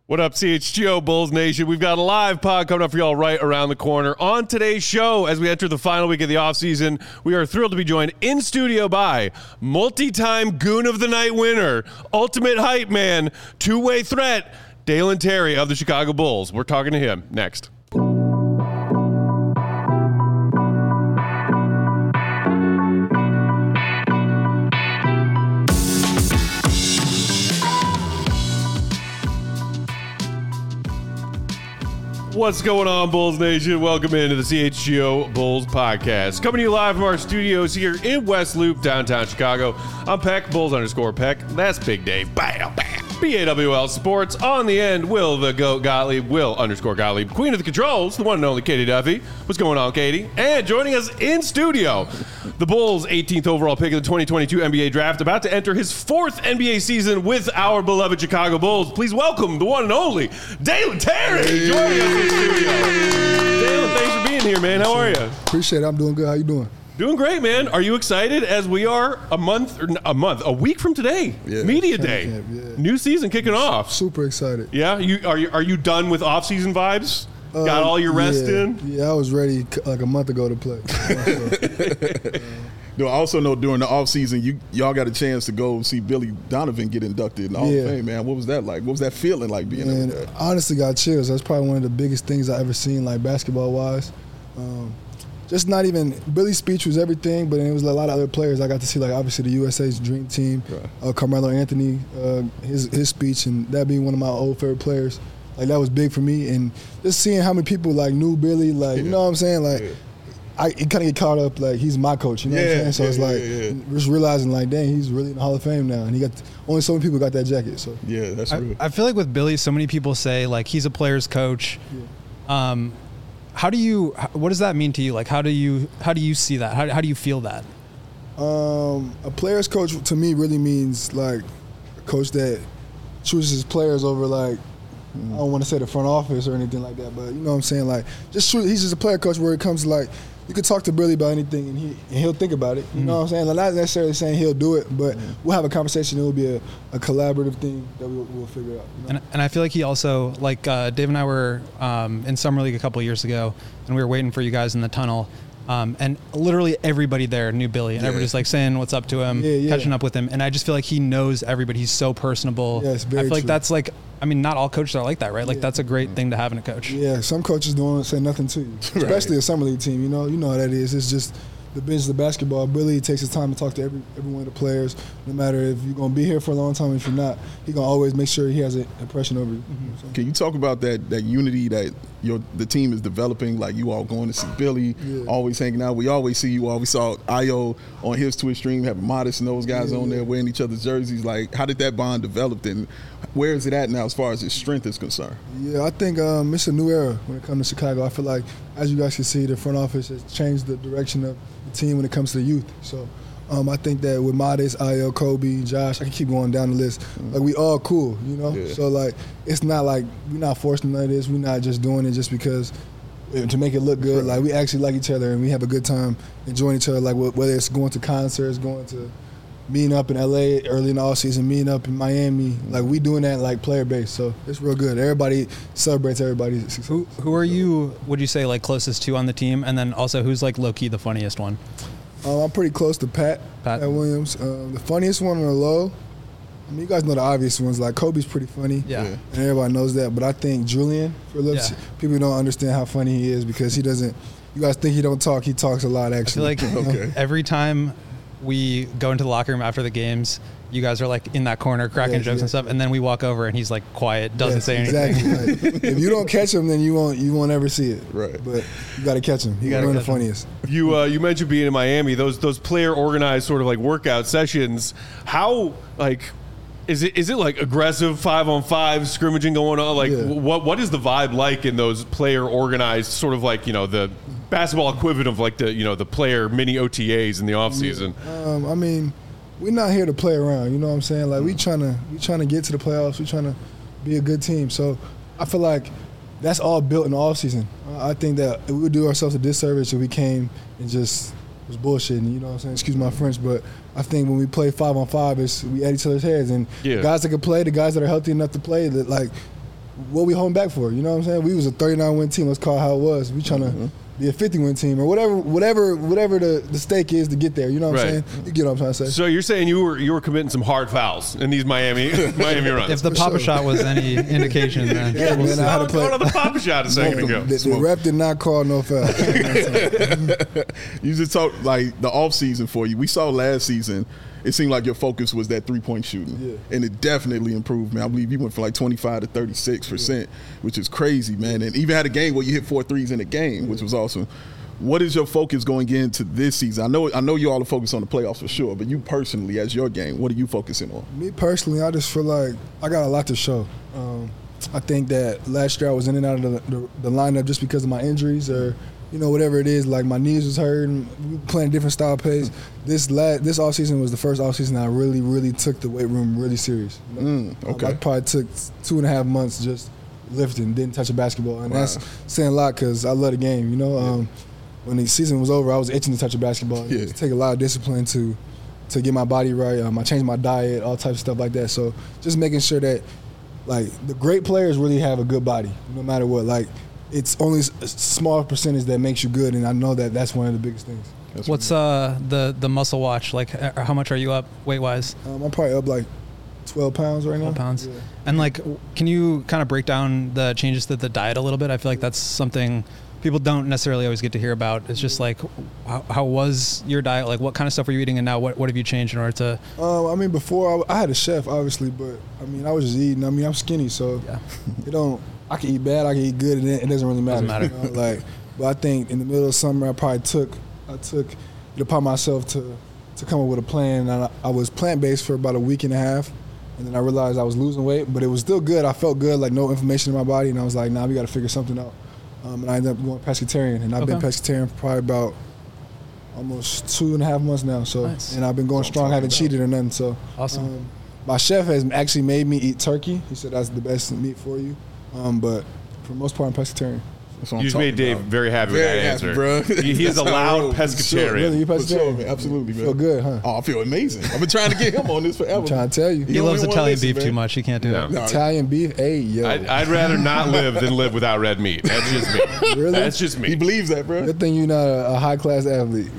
What up, CHGO Bulls Nation? We've got a live pod coming up for y'all right around the corner. On today's show, as we enter the final week of the offseason, we are thrilled to be joined in studio by multi-time Goon of the Night winner, ultimate hype man, two-way threat, Dalen Terry of the Chicago Bulls. We're talking to him next. What's going on, Bulls Nation? Welcome into the CHGO Bulls podcast. Coming to you live from our studios here in West Loop, downtown Chicago. I'm Peck, Bulls_Peck. That's Big Dave. Bam, bam. BAWL Sports. On the end, Will the Goat Gottlieb. Will_Gottlieb. Queen of the controls, the one and only Katie Duffy. What's going on, Katie? And joining us in studio, the Bulls' 18th overall pick of the 2022 NBA Draft, about to enter his fourth NBA season with our beloved Chicago Bulls. Please welcome the one and only Dalen Terry joining us in studio. Dalen, thanks for being here, man. How are you? Appreciate it. I'm doing good. How you doing? Doing great, man. Are you excited as we are a week from today? Yeah. Media day. Camp, yeah. New season kicking off. Super excited. Yeah? Are you done with off-season vibes? Got all your rest in? Yeah, I was ready like a month ago to play. I also know during the offseason, y'all got a chance to go see Billy Donovan get inducted in the Hall of Fame, man. What was that like? What was that feeling like being there? I honestly got chills. That's probably one of the biggest things I ever seen, like basketball-wise. Just not even – Billy's speech was everything, but it was a lot of other players I got to see, like obviously the USA's Dream Team, Carmelo Anthony, his speech, and that being one of my old favorite players. Like, that was big for me. And just seeing how many people, like, knew Billy, like, you know what I'm saying? Like, I kind of get caught up, like, he's my coach, you know what I'm saying? So it's like just realizing, like, dang, he's really in the Hall of Fame now. And he got only so many people got that jacket. So yeah, that's true. I feel like with Billy, so many people say, like, he's a player's coach. Yeah. What does that mean to you? Like, how do you see that? How do you feel that? A player's coach to me really means, like, a coach that chooses his players over, like, I don't want to say the front office or anything like that, but you know what I'm saying? Like, he's just a player coach where it comes to, like, you can talk to Billy about anything and he'll think about it. You know what I'm saying? Like, not necessarily saying he'll do it, but we'll have a conversation. It will be a collaborative thing that we'll figure out. You know? And I feel like he also, like, Dave and I were in Summer League a couple of years ago, and we were waiting for you guys in the tunnel. And literally everybody there knew Billy, and everybody's like saying what's up to him, catching up with him. And I just feel like he knows everybody. He's so personable. Yeah, it's very I feel like true. That's like, I mean, not all coaches are like that, right? Like, that's a great thing to have in a coach. Yeah, some coaches don't say nothing to you, especially a Summer League team. You know how that is. It's just the business of basketball. Billy takes his time to talk to every one of the players, no matter if you're going to be here for a long time or if you're not. He's going to always make sure he has an impression over you. Can you talk about that unity that the team is developing? Like, you all going to see Billy, always hanging out. We always see you all. We saw Ayo on his Twitch stream, having Modest and those guys on there wearing each other's jerseys. Like, how did that bond develop, and where is it at now as far as its strength is concerned? Yeah, I think it's a new era when it comes to Chicago. I feel like, as you guys can see, the front office has changed the direction of the team when it comes to the youth. So I think that with Modest, Ayo, Kobe, Josh, I can keep going down the list. Like, we all cool, you know? Yeah. So, like, it's not like we're not forcing none of this. We're not just doing it just because to make it look good. Like, we actually like each other and we have a good time enjoying each other. Like, whether it's going to concerts, going to meeting up in LA early in the offseason, meeting up in Miami. Like, we doing that, like, player base. So it's real good. Everybody celebrates everybody's success. Who are you, would you say, like, closest to on the team? And then also, who's, like, low-key the funniest one? I'm pretty close to Pat Williams. The funniest one on the low, I mean, you guys know the obvious ones. Like, Kobe's pretty funny. Yeah. And everybody knows that. But I think Julian, people don't understand how funny he is because he doesn't – you guys think he don't talk. He talks a lot, actually. I feel like every time we go into the locker room after the games, you guys are, like, in that corner cracking jokes and stuff, and then we walk over and he's, like, quiet, doesn't say anything. Exactly. Like, if you don't catch him, then you won't ever see it. Right. But you got to catch him. He's one of the funniest. You mentioned being in Miami. Those player organized sort of like workout sessions. How, like, is it like aggressive 5-on-5 scrimmaging going on? Like, what is the vibe like in those player organized sort of like, you know, the basketball equivalent of like the player mini OTAs in the off season? I mean, we're not here to play around. You know what I'm saying? Like, we trying to get to the playoffs. We trying to be a good team. So I feel like that's all built in the off season. I think that we would do ourselves a disservice if we came and just was bullshitting. You know what I'm saying? Excuse my French, but I think when we play 5-on-5, we at each other's heads. And guys that can play, the guys that are healthy enough to play, that like what we holding back for? You know what I'm saying? We was a 39-win team. Let's call it how it was. We trying to be a 50-win team or whatever the stake is to get there. You know what I'm saying? You get what I'm trying to say. So you're saying you were committing some hard fouls in these Miami runs. If the Papa shot was any indication, then I had to play on the Papa shot a second ago. The ref did not call no foul. You just talk like the off season for you. We saw last season. It seemed like your focus was that 3-point shooting, and it definitely improved, man. I believe you went from like 25 to 36%, which is crazy, man. And even had a game where you hit 4 threes in a game, which was awesome. What is your focus going into this season? I know you all are focused on the playoffs for sure, but you personally, as your game, what are you focusing on? Me personally, I just feel like I got a lot to show. I think that last year I was in and out of the lineup just because of my injuries or whatever it is, like my knees was hurting, we were playing different style pace. This offseason was the first offseason I really, really took the weight room really serious. Okay. I probably took 2.5 months just lifting, didn't touch a basketball. And that's saying a lot because I love the game, When the season was over, I was itching to touch a basketball. It take a lot of discipline to get my body right. I changed my diet, all types of stuff like that. So just making sure that, like, the great players really have a good body, no matter what. Like, it's only a small percentage that makes you good, and I know that that's one of the biggest things. What's the muscle watch? Like, how much are you up weight-wise? I'm probably up like 12 pounds right now. 12 pounds. Yeah. And, like, can you kind of break down the changes to the diet a little bit? I feel like that's something people don't necessarily always get to hear about. It's just like, how was your diet? Like, what kind of stuff were you eating, and now what have you changed in order to? I mean, before I had a chef, obviously, but I mean, I was just eating. I mean, I'm skinny, so I can eat bad, I can eat good, and it doesn't really matter. But I think in the middle of summer, I took it upon myself to come up with a plan. And I was plant-based for about a week and a half, and then I realized I was losing weight, but it was still good. I felt good, like no inflammation in my body, and I was like, nah, we got to figure something out. And I ended up going pescatarian, and I've been pescatarian for probably about almost 2.5 months now. So, and I've been going strong, haven't cheated or nothing. So, awesome. My chef has actually made me eat turkey. He said that's the best meat for you. But for the most part, I'm pescatarian. You just made Dave very happy with that answer, bro. He is a loud pescatarian. Really, you pescatarian? Sure, absolutely, man. Feel good, huh? Oh, I feel amazing. I've been trying to get him on this forever. I'm trying to tell you. He loves Italian beef too much. He can't do that. No. Italian beef, hey, yo. I'd rather not live than live without red meat. That's just me. Really? That's just me. He believes that, bro. Good thing you're not a high-class athlete.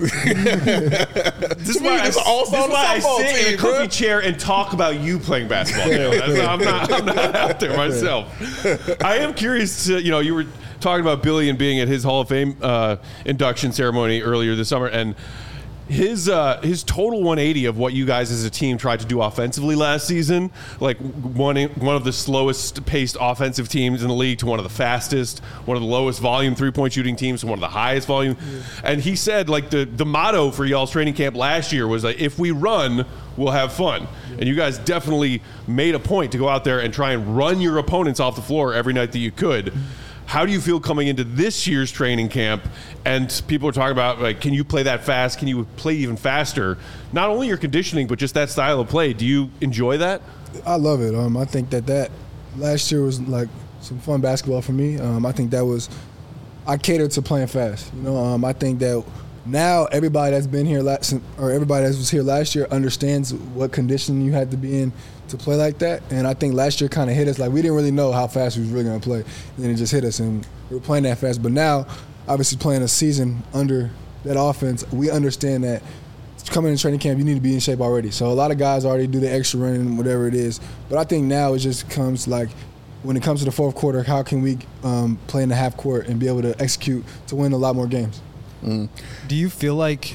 This is why I sit in a comfy chair and talk about you playing basketball. I'm not out there myself. I am curious to, you were talking about Billy and being at his Hall of Fame induction ceremony earlier this summer, and his total 180 of what you guys as a team tried to do offensively last season, like one of the slowest paced offensive teams in the league to one of the fastest, one of the lowest volume 3-point shooting teams to one of the highest volume. And he said, like, the motto for y'all's training camp last year was like, if we run, we'll have fun. And you guys definitely made a point to go out there and try and run your opponents off the floor every night that you could. How do you feel coming into this year's training camp? And people are talking about, like, can you play that fast? Can you play even faster? Not only your conditioning, but just that style of play. Do you enjoy that? I love it. I think that last year was like some fun basketball for me. I think I catered to playing fast. I think that now everybody that's been here everybody that was here last year understands what condition you had to be in to play like that. And I think last year kind of hit us. Like, we didn't really know how fast we was really going to play. And then it just hit us, and we were playing that fast. But now, obviously playing a season under that offense, we understand that coming in training camp, you need to be in shape already. So a lot of guys already do the extra running, whatever it is. But I think now it just comes like, when it comes to the fourth quarter, how can we play in the half court and be able to execute to win a lot more games? Do you feel like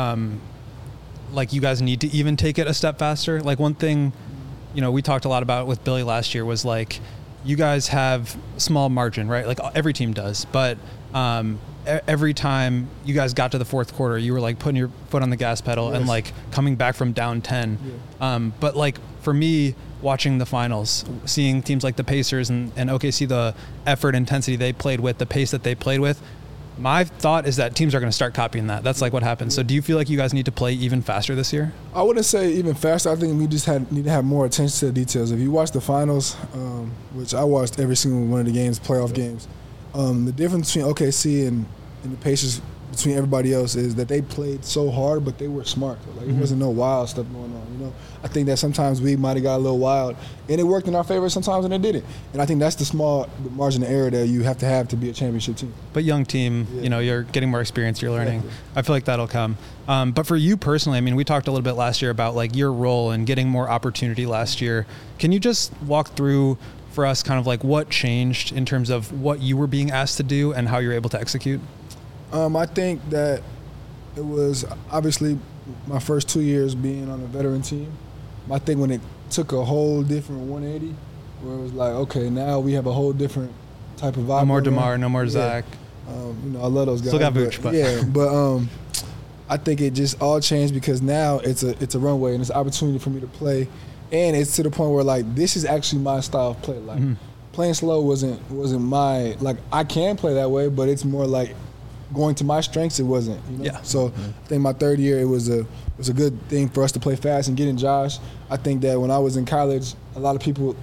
you guys need to even take it a step faster? Like, one thing, we talked a lot about with Billy last year was, like, you guys have small margin, right? Like every team does. But every time you guys got to the fourth quarter, you were like putting your foot on the gas pedal and like coming back from down 10. Yeah. But like for me, watching the finals, seeing teams like the Pacers and OKC, the effort intensity they played with, the pace that they played with, my thought is that teams are going to start copying that. That's like what happens. So do you feel like you guys need to play even faster this year? I wouldn't say even faster. I think we just need to have more attention to the details. If you watch the finals, which I watched every single one of the games, playoff games, the difference between OKC and the Pacers between everybody else is that they played so hard, but they were smart. Like it wasn't no wild stuff going on. You know, I think that sometimes we might have got a little wild, and it worked in our favor sometimes, and it didn't. And I think that's the small margin of error that you have to be a championship team. But young team, you know, you're getting more experience, you're learning. Exactly. I feel like that'll come. But for you personally, I mean, we talked a little bit last year about like your role in getting more opportunity last year. Can you just walk through for us kind of like what changed in terms of what you were being asked to do and how you're able to execute? I think that it was obviously my first 2 years being on a veteran team. I think when it took a whole different 180, where it was like, okay, now we have a whole different type of vibe. No more DeMar, no more Zach. You know, I love those guys. Still got Vooch, but yeah, but I think it just all changed because now it's a runway and it's an opportunity for me to play, and it's to the point where like this is actually my style of play. Like playing slow wasn't my like I can play that way, but it's more like going to my strengths, it wasn't. You know? Yeah. So I think my third year, it was a good thing for us to play fast and getting Josh. I think that when I was in college, a lot of people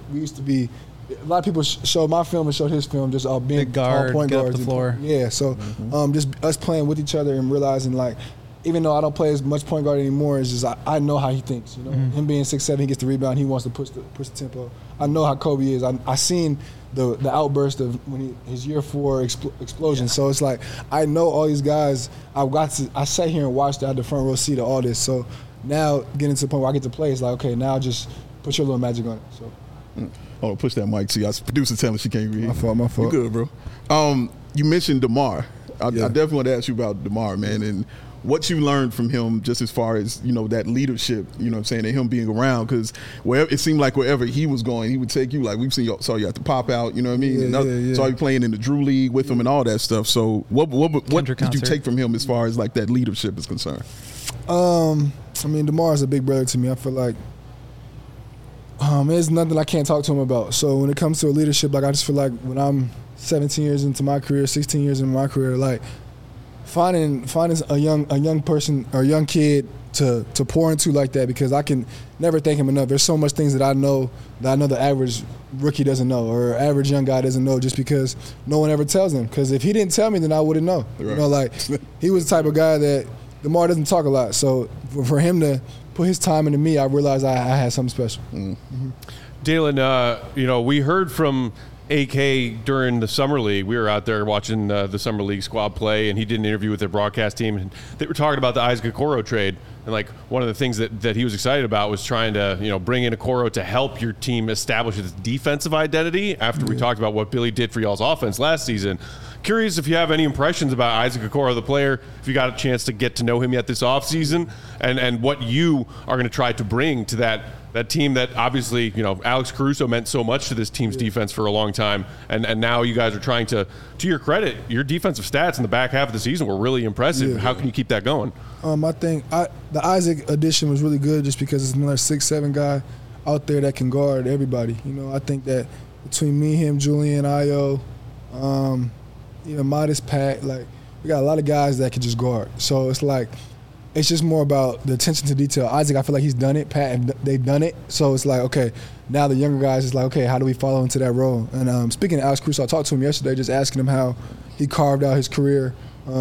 showed my film and showed his film, just all being big guard, point get guards. Up the floor. Yeah. So just us playing with each other and realizing like, even though I don't play as much point guard anymore, it's just I know how he thinks. You know, him being 6'7", he gets the rebound, he wants to push the tempo. I know how Kobe is. I seen the outburst of when his year 4 explosion. Yeah. So it's like I know all these guys. I sat here and watched. I had the front row seat of all this. So now getting to the point where I get to play, it's like okay, now just put your little magic on it. So. Oh, push that mic. See, our producer telling she can't read. My fault. You good, bro. You mentioned DeMar. I definitely want to ask you about DeMar, man, and what you learned from him just as far as, you know, that leadership, you know what I'm saying, and him being around, because it seemed like wherever he was going, he would take you. Like we've saw you at the Pop Out, you know what I mean? Saw you playing in the Drew League with him and all that stuff. So what did you take from him as far as like that leadership is concerned? I mean, DeMar is a big brother to me. I feel like there's nothing I can't talk to him about. So when it comes to leadership, like I just feel like when I'm 17 years into my career, 16 years into my career, like finding a young person or a young kid to pour into like that, because I can never thank him enough. There's so much things that I know the average rookie doesn't know or average young guy doesn't know, just because no one ever tells him. Because if he didn't tell me, then I wouldn't know. Right. You know, like he was the type of guy that DeMar doesn't talk a lot. So for him to put his time into me, I realized I had something special. Dalen, you know, we heard from AK during the Summer League. We were out there watching the Summer League squad play, and he did an interview with their broadcast team, and they were talking about the Isaac Okoro trade. And like one of the things that he was excited about was trying to, you know, bring in Okoro to help your team establish its defensive identity after we talked about what Billy did for y'all's offense last season. Curious if you have any impressions about Isaac Okoro, the player, if you got a chance to get to know him yet this offseason, and what you are going to try to bring to that team that obviously, you know, Alex Caruso meant so much to this team's defense for a long time, and now you guys are trying to your credit, your defensive stats in the back half of the season were really impressive. How can you keep that going? I think the Isaac addition was really good just because it's another 6'7" guy out there that can guard everybody. You know, I think that between me, him, Julian, Ayo, even Modest, Pat, like we got a lot of guys that can just guard. So it's like, it's just more about the attention to detail. Isaac, I feel like he's done it. Pat, they've done it. So it's like, okay, now the younger guys is like, okay, how do we follow into that role? And speaking of Alex Caruso, I talked to him yesterday, just asking him how he carved out his career.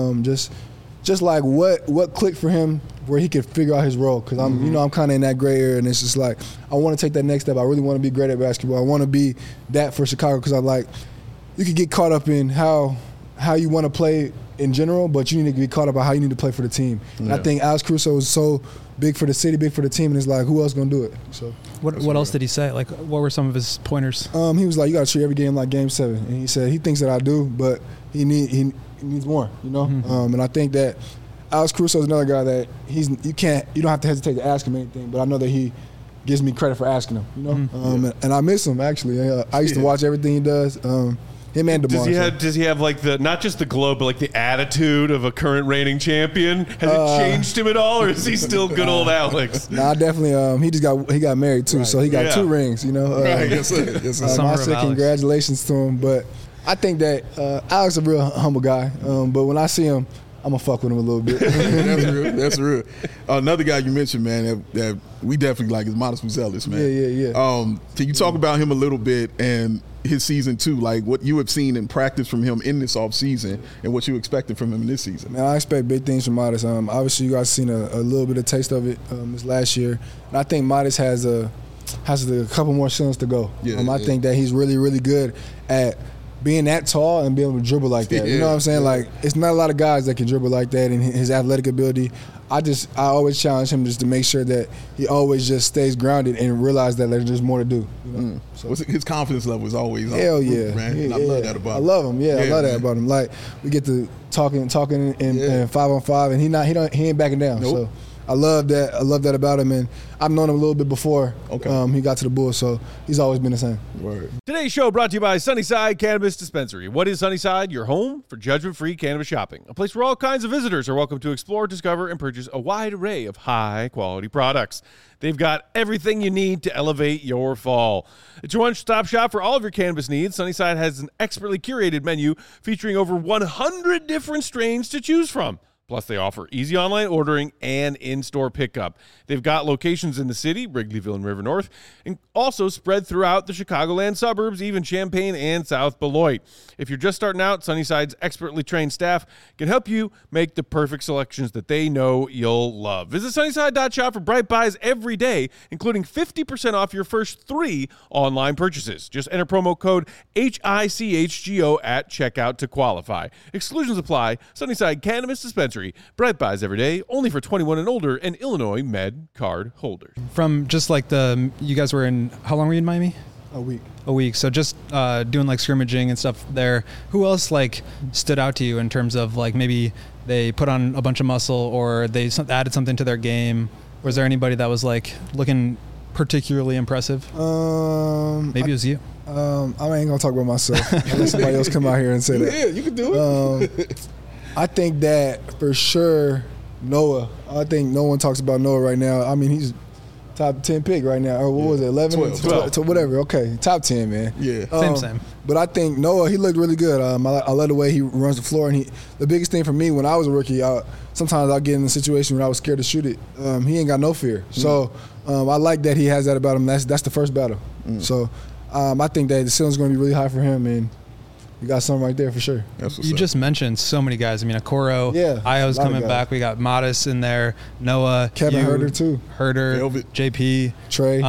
Just like what clicked for him where he could figure out his role. Because I'm kind of in that gray area, and it's just like, I want to take that next step. I really want to be great at basketball. I want to be that for Chicago, because I'm like, you could get caught up in how you want to play in general, but you need to be caught up on how you need to play for the team. And I think Alex Caruso was so big for the city, big for the team, and it's like, who else gonna do it? So what else did he say? Like, what were some of his pointers? He was like, you got to treat every game like Game 7, and he said he thinks that I do, but he needs more, you know. And I think that Alex Caruso is another guy that you don't have to hesitate to ask him anything, but I know that he gives me credit for asking him, you know. And I miss him actually. I used to watch everything he does. Him and DeMar. Does he have like not just the glow, but like the attitude of a current reigning champion? Has it changed him at all, or is he still good old Alex? Nah, definitely. He got married too, so he got 2 rings. You know. Yes, sir. Congratulations to him. But I think that Alex is a real humble guy. But when I see him, I'm gonna fuck with him a little bit. That's real. That's real. Another guy you mentioned, man, that we definitely like is Modest Muzelis, man. Yeah. Can you talk about him a little bit and his season 2, like what you have seen in practice from him in this offseason and what you expecting from him in this season? Man, I expect big things from Modest. Obviously, you guys seen a little bit of taste of it this last year, and I think Modest has a couple more seasons to go. I think that he's really, really good at being that tall and being able to dribble like that. You know what I'm saying? Like, it's not a lot of guys that can dribble like that, and his athletic ability. I always challenge him just to make sure that he always just stays grounded and realize that there's just more to do. You know? So his confidence level is always hell yeah, man. I love that about him. I love him. I love that about him. Like, we get to talking in 5-on-5, and he ain't backing down. Nope. So I love that. I love that about him, and I've known him a little bit before. Okay. He got to the Bulls, so he's always been the same. Word. Today's show brought to you by Sunnyside Cannabis Dispensary. What is Sunnyside? Your home for judgment-free cannabis shopping. A place where all kinds of visitors are welcome to explore, discover, and purchase a wide array of high-quality products. They've got everything you need to elevate your fall. It's your one-stop shop for all of your cannabis needs. Sunnyside has an expertly curated menu featuring over 100 different strains to choose from. Plus, they offer easy online ordering and in-store pickup. They've got locations in the city, Wrigleyville and River North, and also spread throughout the Chicagoland suburbs, even Champaign and South Beloit. If you're just starting out, Sunnyside's expertly trained staff can help you make the perfect selections that they know you'll love. Visit Sunnyside.shop for bright buys every day, including 50% off your first 3 online purchases. Just enter promo code HICHGO at checkout to qualify. Exclusions apply. Sunnyside Cannabis Dispensary. Bright buys every day, only for 21 and older and Illinois Med card holders. From just like you guys were in, how long were you in Miami? A week. So just doing like scrimmaging and stuff there. Who else like stood out to you in terms of like maybe they put on a bunch of muscle or they added something to their game? Was there anybody that was like looking particularly impressive? Maybe it was you. I ain't gonna talk about myself. Let somebody else come out here and say that. Yeah, you can do it. I think that for sure, Noah. I think no one talks about Noah right now. I mean, he's top 10 pick right now. Or what was it, 11? 12. To whatever. Okay, top 10, man. Yeah. Same. But I think Noah, he looked really good. I love the way he runs the floor. And the biggest thing for me when I was a rookie, sometimes I'll get in a situation where I was scared to shoot it. He ain't got no fear. So I like that he has that about him. That's the first battle. So I think that the ceiling's going to be really high for him. And you got something right there for sure. You just mentioned so many guys. I mean, Okoro, Io's coming back. We got Modest in there, Noah, Kevin Herter too. Velvet. JP, Trey.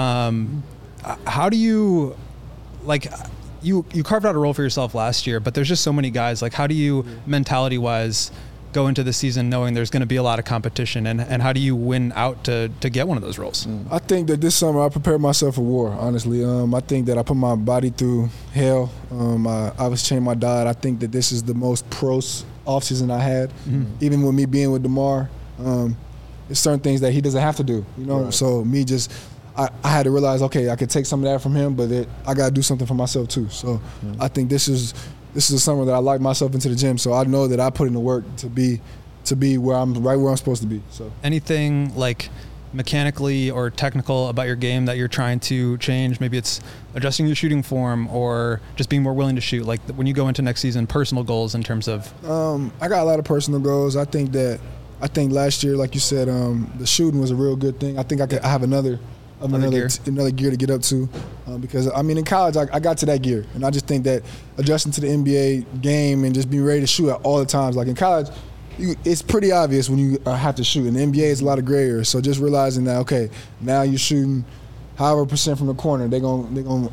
How do you, like, you carved out a role for yourself last year, but there's just so many guys. Like, how do you, mentality-wise, go into the season knowing there's going to be a lot of competition, and how do you win out to get one of those roles? I think that this summer I prepared myself for war, honestly. I think that I put my body through hell. I was changing my diet. I think that this is the most pro offseason I had. Even with me being with DeMar, there's certain things that he doesn't have to do, you know? Right. So me just I had to realize, okay, I could take some of that from him, but I got to do something for myself too. So I think this is a summer that I locked myself into the gym, so I know that I put in the work to be where I'm supposed to be. So anything like mechanically or technical about your game that you're trying to change? Maybe it's adjusting your shooting form or just being more willing to shoot. Like when you go into next season, personal goals in terms of. I got a lot of personal goals. I think last year, like you said, the shooting was a real good thing. I think I have another gear to get up to, because I mean in college I got to that gear, and I just think that adjusting to the NBA game and just being ready to shoot at all the times. Like in college, it's pretty obvious when you have to shoot. In the NBA, it's a lot of gray area. So just realizing that, okay, now you're shooting however % from the corner, they gonna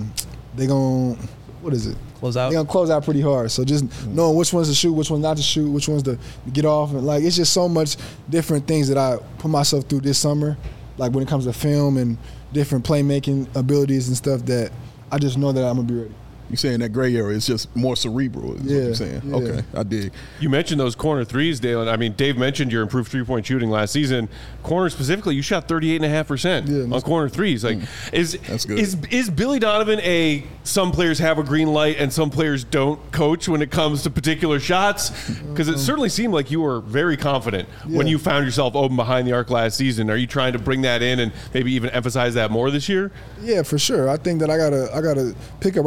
what is it? Close out. They're gonna close out pretty hard. So just knowing which ones to shoot, which ones not to shoot, which ones to get off, and like it's just so much different things that I put myself through this summer. Like when it comes to film and different playmaking abilities and stuff, that I just know that I'm going to be ready. You're saying that gray area is just more cerebral, is what you're saying. Yeah. Okay, I dig. You mentioned those corner threes, Dalen. I mean, Dave mentioned your improved three-point shooting last season. Corner specifically, you shot 38.5% on corner threes. Like, that's good. Is Billy Donovan some players have a green light and some players don't coach when it comes to particular shots? Because it certainly seemed like you were very confident when you found yourself open behind the arc last season. Are you trying to bring that in and maybe even emphasize that more this year? Yeah, for sure. I think that I gotta pick up right where I left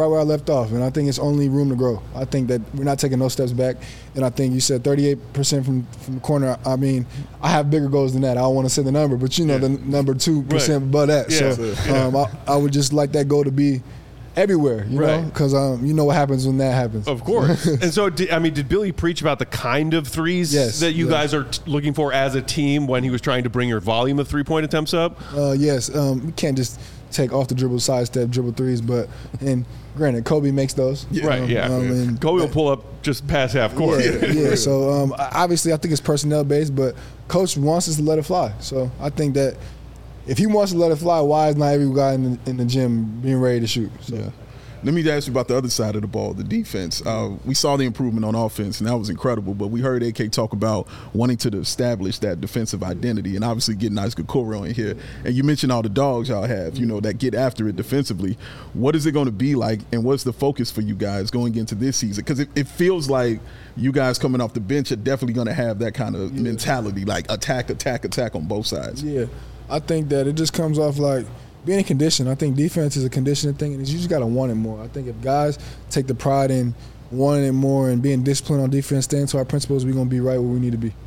left off, and I think it's only room to grow. I think that we're not taking no steps back, and I think you said 38% from the corner. I mean, I have bigger goals than that. I don't want to say the number, but the number 2% above that. Yeah. So I would just like that goal to be everywhere, you know, because you know what happens when that happens. Of course. And so, did Billy preach about the kind of threes that you guys are looking for as a team when he was trying to bring your volume of three-point attempts up? Yes. We can't just take off the dribble, sidestep, dribble threes, and granted, Kobe makes those. And Kobe will pull up just past half court. So obviously, I think it's personnel based, but coach wants us to let it fly. So I think that if he wants to let it fly, why is not every guy in the gym being ready to shoot? So. Yeah. Let me ask you about the other side of the ball, the defense. We saw the improvement on offense, and that was incredible, but we heard AK talk about wanting to establish that defensive identity and obviously getting Isaac Okoro in here. And you mentioned all the dogs y'all have, you know, that get after it defensively. What is it going to be like, and what's the focus for you guys going into this season? Because it feels like you guys coming off the bench are definitely going to have that kind of mentality, like attack on both sides. Yeah, I think that it just comes off like being in condition. I think defense is a conditioning thing, and you just got to want it more. I think if guys take the pride in wanting it more and being disciplined on defense, staying to our principles, we're going to be right where we need to be.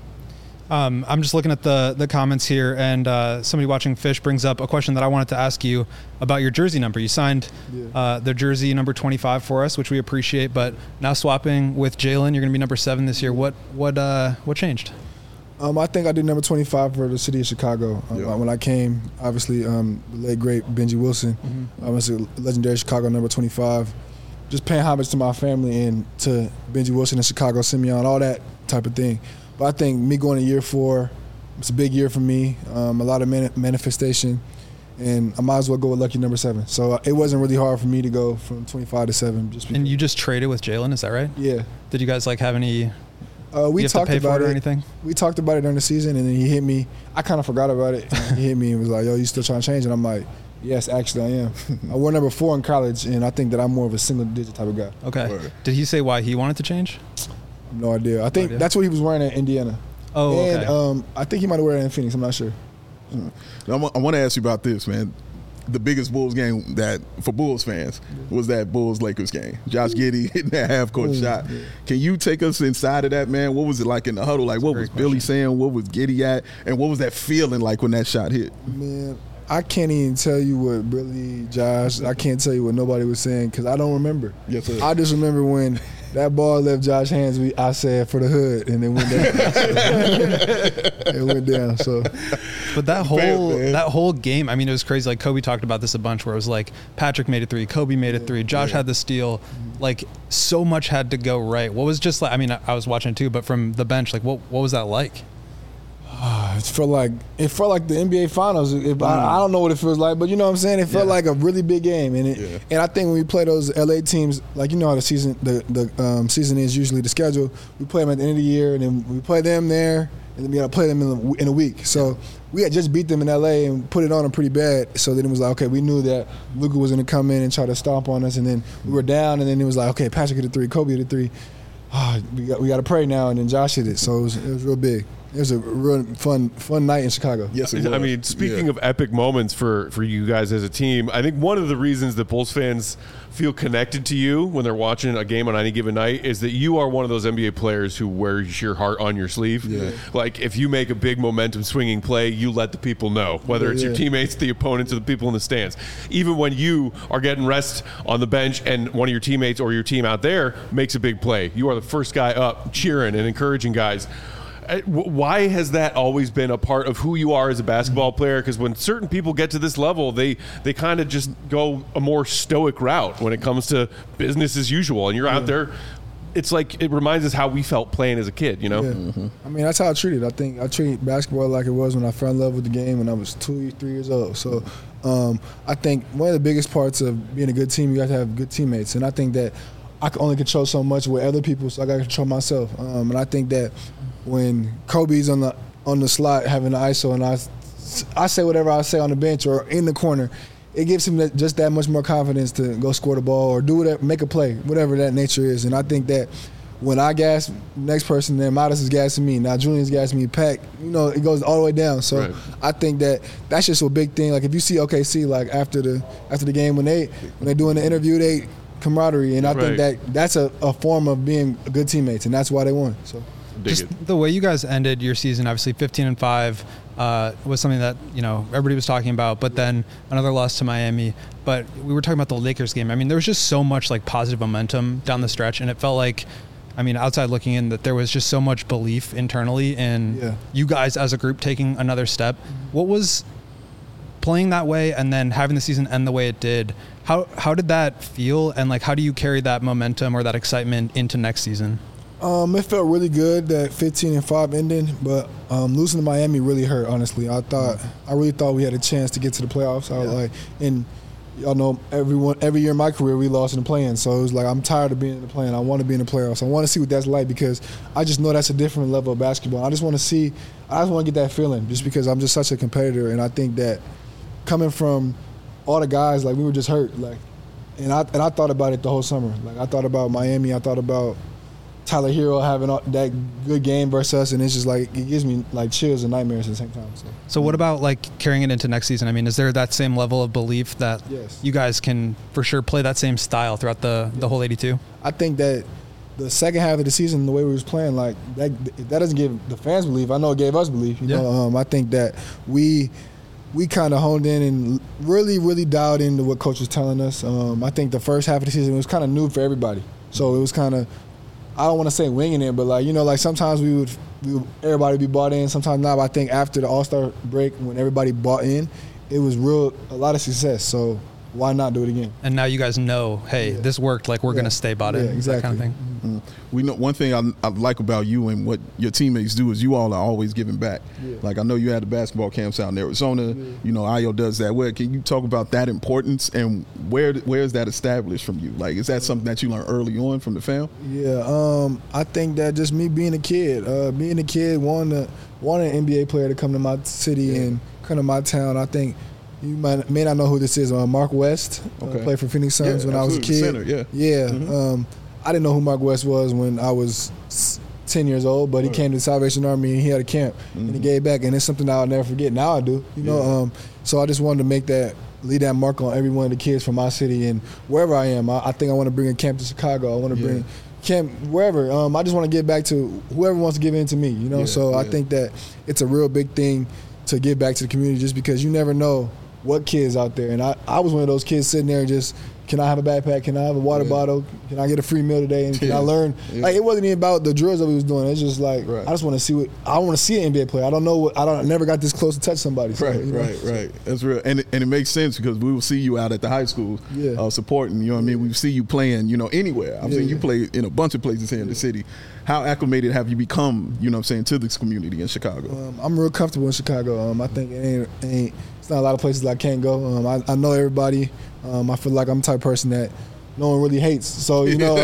I'm just looking at the comments here, and somebody watching Fish brings up a question that I wanted to ask you about your jersey number. You signed the jersey number 25 for us, which we appreciate, but now swapping with Jalen, you're going to be number 7 this year. What changed? I think I did number 25 for the city of Chicago. When I came, obviously, the late, great Benji Wilson. I was a legendary Chicago number 25. Just paying homage to my family and to Benji Wilson and Chicago, Simeon, all that type of thing. But I think me going to year 4, it's a big year for me, a lot of manifestation, and I might as well go with lucky number 7. So it wasn't really hard for me to go from 25 to 7. And you just traded with Jalen, is that right? Yeah. Did you guys have any... we talked about it or anything? We talked about it during the season, and then he hit me. I kind of forgot about it. He hit me and was like, "Yo, you still trying to change?" And I'm like, "Yes, actually, I am." I wore number 4 in college, and I think that I'm more of a single-digit type of guy. Okay. Right. Did he say why he wanted to change? No idea. I think that's what he was wearing at Indiana. Oh, and, okay. I think he might have worn it in Phoenix. I'm not sure. I want to ask you about this, man. The biggest Bulls game that for Bulls fans was that Bulls-Lakers game. Josh Giddey hitting that half-court shot. Yeah. Can you take us inside of that, man? What was it like in the huddle? Like, what was Billy saying? What was Giddey at? And what was that feeling like when that shot hit? Man, I can't even tell you what Billy, Josh, I can't tell you what nobody was saying because I don't remember. Yes, sir. I just remember when that ball left Josh's hands, I said for the hood, and it went down. It went down. So, but that whole game, I mean, it was crazy. Like Kobe talked about this a bunch, where it was like Patrick made a 3, Kobe made a 3, Josh had the steal. Like so much had to go right. What was just like? I mean, I was watching too, but from the bench, like what was that like? It felt like the NBA Finals. I don't know what it feels like, but you know what I'm saying. It felt like a really big game, and and I think when we play those LA teams, like you know how the season season is usually the schedule. We play them at the end of the year, and then we play them there, and then we got to play them in a week. So we had just beat them in LA and put it on them pretty bad. So then it was like, okay, we knew that Luka was going to come in and try to stomp on us, and then we were down, and then it was like, okay, Patrick hit a 3, Kobe hit a 3. We got to pray now, and then Josh hit it. So it was real big. It was a real fun night in Chicago. Yes, it was. I mean, speaking of epic moments for you guys as a team, I think one of the reasons that Bulls fans feel connected to you when they're watching a game on any given night is that you are one of those NBA players who wears your heart on your sleeve. Yeah. Like, if you make a big momentum swinging play, you let the people know, whether it's your teammates, the opponents, or the people in the stands. Even when you are getting rest on the bench and one of your teammates or your team out there makes a big play, you are the first guy up cheering and encouraging guys. Why has that always been a part of who you are as a basketball player? Because when certain people get to this level, they kind of just go a more stoic route when it comes to business as usual. And you're out there. It's like it reminds us how we felt playing as a kid, you know? Yeah. Mm-hmm. I mean, that's how I treat it. I think I treat basketball like it was when I fell in love with the game when I was 2, 3 years old. So I think one of the biggest parts of being a good team, you got to have good teammates. And I think that I can only control so much with other people, so I got to control myself. And I think that when Kobe's on the slot having the ISO and I say whatever I say on the bench or in the corner, it gives him just that much more confidence to go score the ball or do whatever, make a play, whatever that nature is. And I think that when I gas next person, then Modest is gassing me. Now Julian's gassing me. Pack, you know, it goes all the way down. So I think that that's just a big thing. Like if you see OKC, like after the game when they're doing the interview, camaraderie, and I think that's a form of being good teammates, and that's why they won. So, the way you guys ended your season, obviously 15-5, was something that everybody was talking about. But then another loss to Miami. But we were talking about the Lakers game. I mean, there was just so much like positive momentum down the stretch, and it felt like, I mean, outside looking in, that there was just so much belief internally in you guys as a group taking another step. What was playing that way and then having the season end the way it did? How did that feel, and like how do you carry that momentum or that excitement into next season? It felt really good that 15-5 ended, but losing to Miami really hurt. Honestly, I really thought we had a chance to get to the playoffs. I was like, and y'all know every year in my career we lost in the play-in, so it was like I'm tired of being in the play-in. I want to be in the playoffs. I want to see what that's like because I just know that's a different level of basketball. I just want to get that feeling just because I'm just such a competitor, and I think that coming from all the guys, like we were just hurt, like, and I thought about it the whole summer. Like I thought about Miami, I thought about Tyler Hero having that good game versus us, and it's just like it gives me like chills and nightmares at the same time. So what about like carrying it into next season? I mean, is there that same level of belief that you guys can for sure play that same style throughout the whole 82? I think that the second half of the season, the way we was playing, like that doesn't give the fans belief. I know it gave us belief. You know, I think that we kind of honed in and really, really dialed into what coach was telling us. I think the first half of the season was kind of new for everybody. So it was kind of, I don't want to say winging it, but like sometimes everybody would be bought in, sometimes not. But I think after the All-Star break, when everybody bought in, it was a lot of success. So why not do it again? And now you guys know, hey, this worked. Like we're going to stay bought in. Exactly. That kind of thing. Mm-hmm. We know one thing I like about you and what your teammates do is you all are always giving back. Like I know you had the basketball camps out in Arizona. Ayo does that. Where can you talk about that importance and where is that established from you? Like is that something that you learned early on from the fam? I think that just me being a kid, wanting an NBA player to come to my city and come to my town. I think you may not know who this is. Mark West played for Phoenix Suns when I was a kid. Center, I didn't know who Mark West was when I was 10 years old, but he came to the Salvation Army and he had a camp and he gave back, and it's something that I'll never forget. Now I do, so I just wanted to leave that mark on every one of the kids from my city and wherever I am. I think I want to bring a camp to Chicago. I want to bring camp wherever. I just want to give back to whoever wants to give in to me, I think that it's a real big thing to give back to the community just because you never know what kids out there. And I was one of those kids sitting there just, can I have a backpack? Can I have a water bottle? Can I get a free meal today? And can I learn? Like it wasn't even about the drills that we was doing. It's just like I just want to see I want to see an NBA player. I don't know I never got this close to touch somebody. So, right. That's real, and it makes sense because we will see you out at the high schools supporting. You know what I mean? We see you playing. Anywhere. I've seen you play in a bunch of places here in the city. How acclimated have you become? To this community in Chicago? I'm real comfortable in Chicago. I think it's not a lot of places I can't go. I know everybody. I feel like I'm the type of person that no one really hates. So,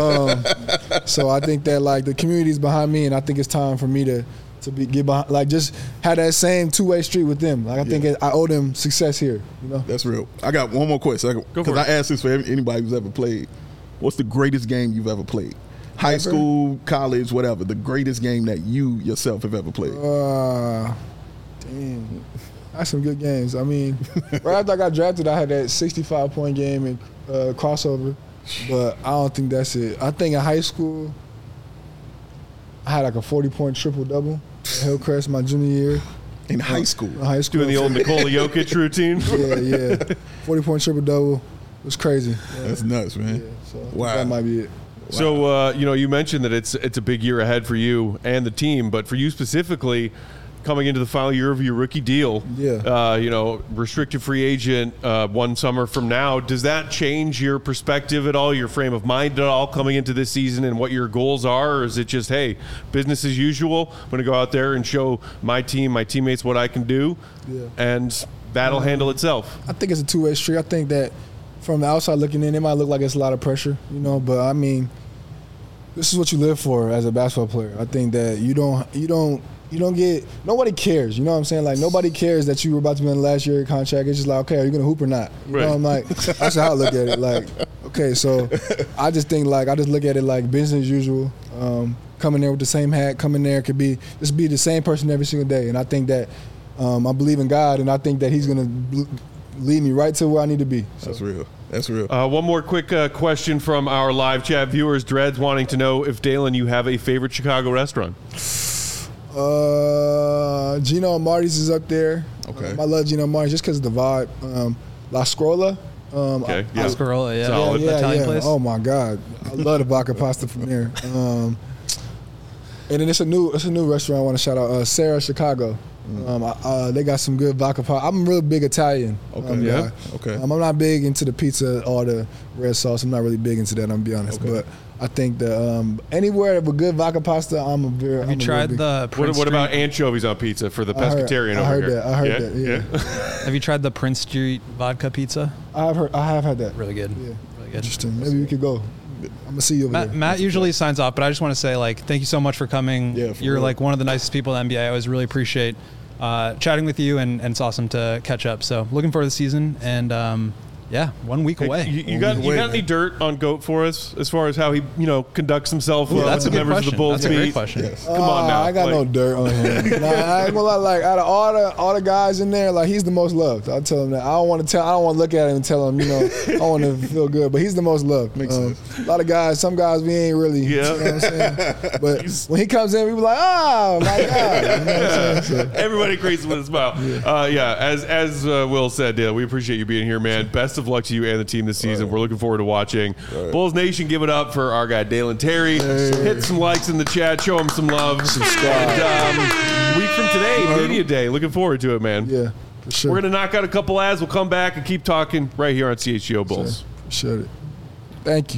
so I think that like the community's behind me, and I think it's time for me to get behind, like just have that same two-way street with them. Like I think I owe them success here. That's real. I got one more question because I asked this for anybody who's ever played. What's the greatest game you've ever played? High school, college, whatever. The greatest game that you yourself have ever played. Damn. That's some good games. I mean, right after I got drafted, I had that 65-point game in crossover, but I don't think that's it. I think in high school, I had like a 40-point triple-double at Hillcrest my junior year. In high school? Doing the old Nikola Jokic routine? Yeah. 40-point triple-double was crazy. That's nuts, man. Yeah, so wow. That might be it. Wow. So, you mentioned that it's a big year ahead for you and the team, but for you specifically, coming into the final year of your rookie deal, restricted free agent 1 summer from now, does that change your perspective at all, your frame of mind at all coming into this season and what your goals are? Or is it just, hey, business as usual, I'm going to go out there and show my team, my teammates what I can do, and that'll handle itself? I think it's a two-way street. I think that from the outside looking in, it might look like it's a lot of pressure, but I mean, this is what you live for as a basketball player. I think that you don't get, nobody cares, you know what I'm saying? Like, nobody cares that you were about to be in the last year of your contract. It's just like, okay, are you going to hoop or not? You know, I'm like, that's how I look at it. Like, okay, so I just think, like, I just look at it like business as usual. Coming there with the same hat, coming there could be the same person every single day. And I think that I believe in God, and I think that He's going to lead me right to where I need to be. So. That's real. That's real. One more quick question from our live chat viewers. Dreads wanting to know if, Dalen, you have a favorite Chicago restaurant. Gino and Marty's is up there. Okay. I love Gino and Marty's just because of the vibe. La Scrolla. Okay. La Scrolla, yeah. Solid. Italian place. Oh my God, I love the vodka pasta from there. And then it's a new restaurant I want to shout out, Sarah Chicago. They got some good vodka pasta. I'm a real big Italian. Yeah. Okay. I'm not big into the pizza or the red sauce. I'm not really big into that. I'm gonna be honest, but I think that anywhere with good vodka pasta, I'm a very. Have you tried the Prince What about Street- anchovies on pizza for the pescatarian I over heard here? that. I heard that. Yeah. Have you tried the Prince Street vodka pizza? I have had that. Really good. Yeah. Really good. Interesting. Maybe we could go. I'm gonna see you over there. Matt usually signs off, but I just want to say, like, thank you so much for coming. Yeah, for You're real. like one of the nicest people in the NBA. I always really appreciate chatting with you, and it's awesome to catch up. So looking forward to the season, and 1 week away. You got any dirt on Goat for us as far as how he conducts himself with that's the a good members of the question. Bulls That's a great beat? question. Yes. Come on now. I got no dirt on him. Nah, I ain't gonna lie. Like out of all the guys in there, like he's the most loved. I'll tell him that. I don't want to look at him and tell him, I want to feel good. But he's the most loved. Makes sense. A lot of guys. Some guys we ain't really. Yeah. You know what I'm saying? But when he comes in, we be like, oh my God. You know what I'm saying? So, Everybody crazy with a smile. As Will said, Dale, we appreciate you being here, man. Best of luck to you and the team this season. We're looking forward to watching. Bulls Nation, give it up for our guy Dalen Terry. Hit some likes in the chat. Show him some love. Subscribe. And week from today, Media Day. Looking forward to it, man. yeah, for sure. We're going to knock out a couple ads. We'll come back and keep talking right here on CHGO Bulls. Appreciate it. Thank you.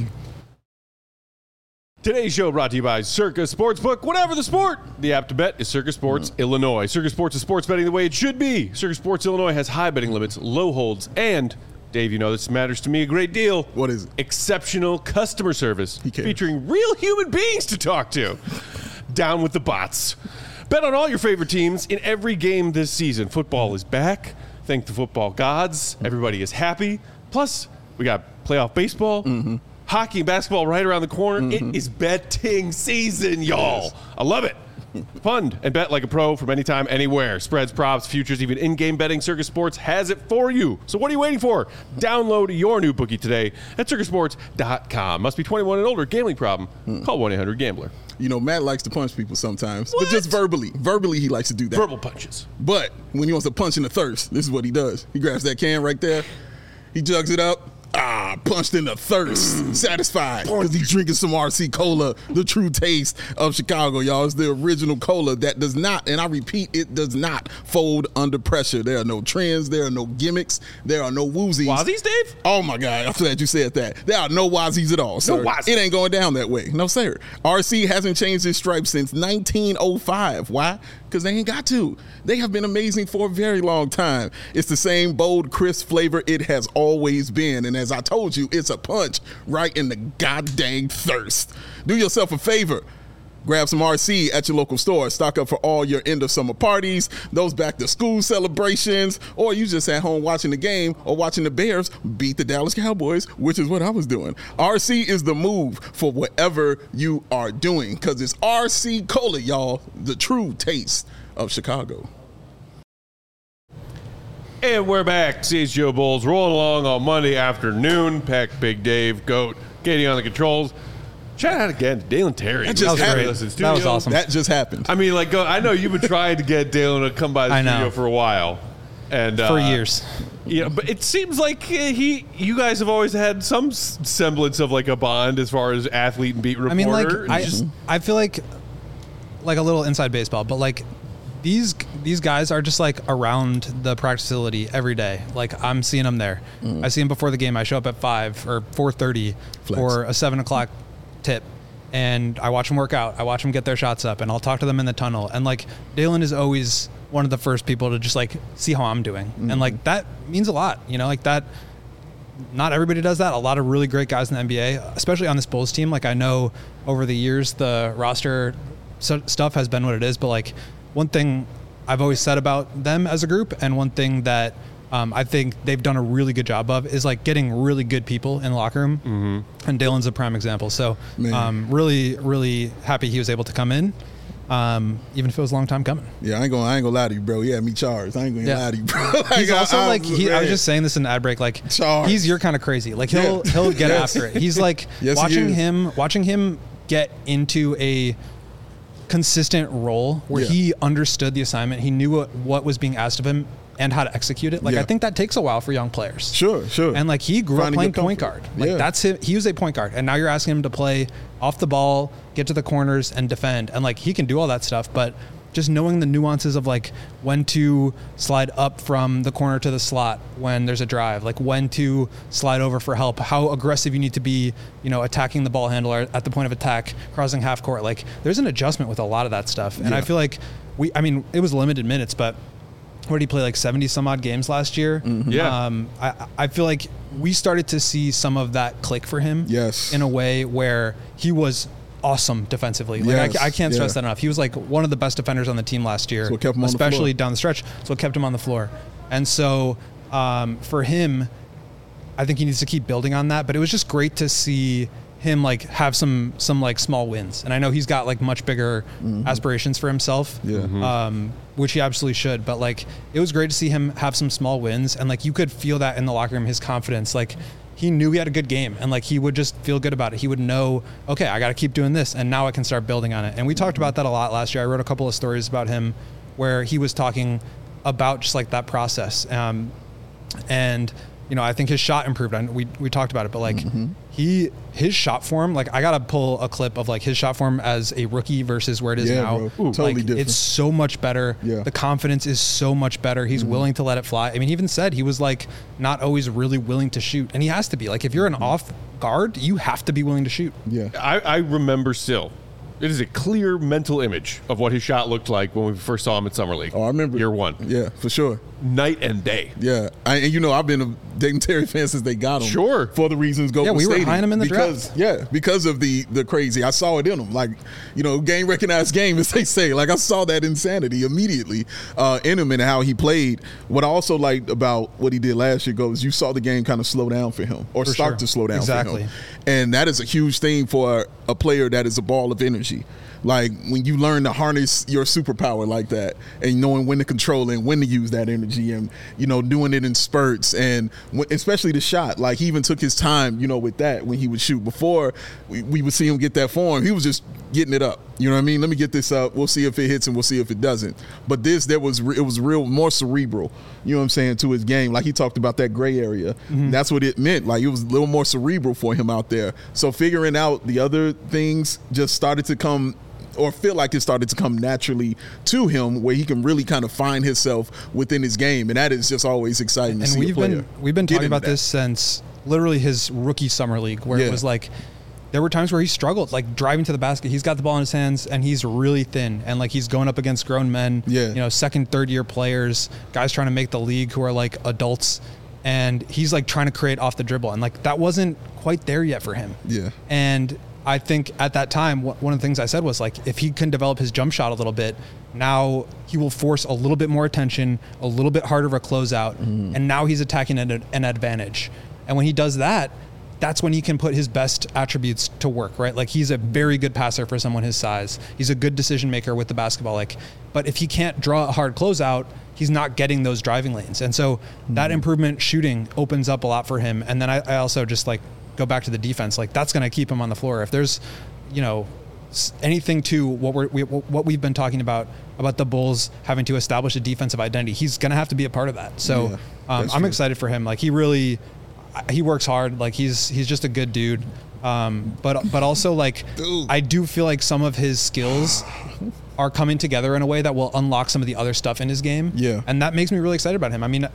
Today's show brought to you by Circa Sportsbook. Whatever the sport, the app to bet is Circa Sports Illinois. Circa Sports is sports betting the way it should be. Circa Sports Illinois has high betting limits, low holds, and, Dave, you know this matters to me a great deal. What is it? Exceptional customer service He cares. featuring real human beings to talk to. Down with the bots. Bet on all your favorite teams in every game this season. Football is back. Thank the football gods. Everybody is happy. Plus, we got playoff baseball. Hockey and basketball right around the corner. It is betting season, y'all. I love it. Fund and bet like a pro from anytime, anywhere. Spreads, props, futures, even in-game betting. Circa Sports has it for you. So what are you waiting for? Download your new bookie today at circasports.com. Must be 21 and older. Gambling problem? Call 1-800-GAMBLER. Matt likes to punch people sometimes, but just verbally. Verbally, he likes to do that. Verbal punches. But when he wants to punch in the thirst, this is what he does. He grabs that can right there. He jugs it up. Punched in the thirst. Satisfied. Because he's drinking some RC Cola, the true taste of Chicago, y'all. It's the original cola that does not, and I repeat, it does not fold under pressure. There are no trends. There are no gimmicks. There are no woozies. Wazzies, Dave? Oh, my God. I'm glad you said that. There are no wazzies at all, sir. No wazzies. It ain't going down that way. No, sir. RC hasn't changed its stripes since 1905. Why? Because they ain't got to. They have been amazing for a very long time. It's the same bold, crisp flavor it has always been. And as I told you, it's a punch right in the goddamn thirst. Do yourself a favor. Grab some RC at your local store. Stock up for all your end of summer parties, those back to school celebrations, or you just at home watching the game or watching the Bears beat the Dallas Cowboys, which is what I was doing. RC is the move for whatever you are doing, because it's RC Cola, y'all, the true taste of Chicago. And we're back. CHGO Bulls rolling along on Monday afternoon. Peck, Big Dave, Goat, Katie on the controls. Shout out again to Dalen Terry. That just happened. That was awesome. That just happened. I mean, like, I know you've been trying to get Dalen to come by the I know. studio for a while. And For years. But it seems like you guys have always had some semblance of like a bond as far as athlete and beat reporter. I mean, like, And I feel like a little inside baseball, but like these guys are just like around the practice facility every day. Like I'm seeing them there. I see them before the game. I show up at 5 or 4:30 for a 7 o'clock tip, and I watch them work out. I watch them get their shots up, and I'll talk to them in the tunnel. And like Dalen is always one of the first people to just like see how I'm doing, and like that means a lot. Like that. Not everybody does that. A lot of really great guys in the NBA, especially on this Bulls team. Like I know over the years the roster stuff has been what it is, but like one thing I've always said about them as a group, and one thing that I think they've done a really good job of, is like getting really good people in the locker room. And Dalen's a prime example. So really, really happy he was able to come in even if it was a long time coming. Yeah, I ain't gonna lie to you, bro. Yeah, me charged. I ain't gonna lie to you, bro. He's also I was just saying this in the ad break. Like, charged. He's your kind of crazy. Like he'll get after it. He's like watching him get into a consistent role where he understood the assignment. He knew what was being asked of him and how to execute it. Like, I think that takes a while for young players. Sure. And like, he grew up playing point guard. Like that's him. He was a point guard, and now you're asking him to play off the ball, get to the corners, and defend. And like, he can do all that stuff, but just knowing the nuances of like when to slide up from the corner to the slot when there's a drive, like when to slide over for help, how aggressive you need to be, attacking the ball handler at the point of attack, crossing half court. Like, there's an adjustment with a lot of that stuff. And I feel like it was limited minutes, but what did he play, like 70 some odd games last year? Mm-hmm. Yeah. I feel like we started to see some of that click for him. Yes. In a way where he was awesome defensively. Like, I can't stress that enough. He was like one of the best defenders on the team last year, especially down the stretch. So it kept him on the floor. And so for him, I think he needs to keep building on that. But it was just great to see him like have some like small wins. And I know he's got like much bigger aspirations for himself, which he absolutely should. But like, it was great to see him have some small wins, and like, you could feel that in the locker room, his confidence. Like, he knew he had a good game, and like, he would just feel good about it. He would know, okay, I got to keep doing this, and now I can start building on it. And we talked about that a lot last year. I wrote a couple of stories about him where he was talking about just like that process. And I think his shot improved. We talked about it, but like his shot form, like, I gotta pull a clip of like his shot form as a rookie versus where it is now. Bro. Totally different. It's so much better. Yeah. The confidence is so much better. He's willing to let it fly. I mean, he even said he was like not always really willing to shoot, and he has to be. Like, if you're an off guard, you have to be willing to shoot. Yeah. I remember still. It is a clear mental image of what his shot looked like when we first saw him at Summer League. Oh, I remember. Year one. Yeah, for sure. Night and day. Yeah. And I've been a Dayton Terry fan since they got him. Sure. For the reasons Golden we State. were behind him in the draft. Yeah, because of the crazy. I saw it in him. Like, game recognized game, as they say. Like, I saw that insanity immediately in him and how he played. What I also liked about what he did last year goes, you saw the game kind of slow down for him, or start to slow down for him. And that is a huge thing for a player that is a ball of energy. Like, when you learn to harness your superpower like that, and knowing when to control it and when to use that energy, and doing it in spurts, and especially the shot. Like, he even took his time, with that when he would shoot. Before we would see him get that form, he was just getting it up. You know what I mean? Let me get this up. We'll see if it hits and we'll see if it doesn't. But it was real more cerebral. You know what I'm saying, to his game. Like, he talked about that gray area. That's what it meant. Like, it was a little more cerebral for him out there. So figuring out the other things just started to come, or feel like it started to come naturally to him, where he can really kind of find himself within his game. And that is just always exciting to see a player. We've been talking about this since literally his rookie Summer League, where it was like, there were times where he struggled, like driving to the basket. He's got the ball in his hands and he's really thin, and like, he's going up against grown men, second, third year players, guys trying to make the league who are like adults. And he's like trying to create off the dribble. And like, that wasn't quite there yet for him. Yeah. And I think at that time, one of the things I said was like, if he can develop his jump shot a little bit, now he will force a little bit more attention, a little bit harder of a closeout, and now he's attacking an advantage. And when he does that, that's when he can put his best attributes to work, right? Like, he's a very good passer for someone his size. He's a good decision maker with the basketball. Like, but if he can't draw a hard closeout, he's not getting those driving lanes. And so that improvement shooting opens up a lot for him. And then I also just like go back to the defense. Like, that's going to keep him on the floor. If there's, anything to what we've been talking about the Bulls having to establish a defensive identity, he's going to have to be a part of that. So I'm excited for him. Like, he works hard. Like, he's just a good dude. But also, like, I do feel like some of his skills are coming together in a way that will unlock some of the other stuff in his game. Yeah. And that makes me really excited about him. I mean,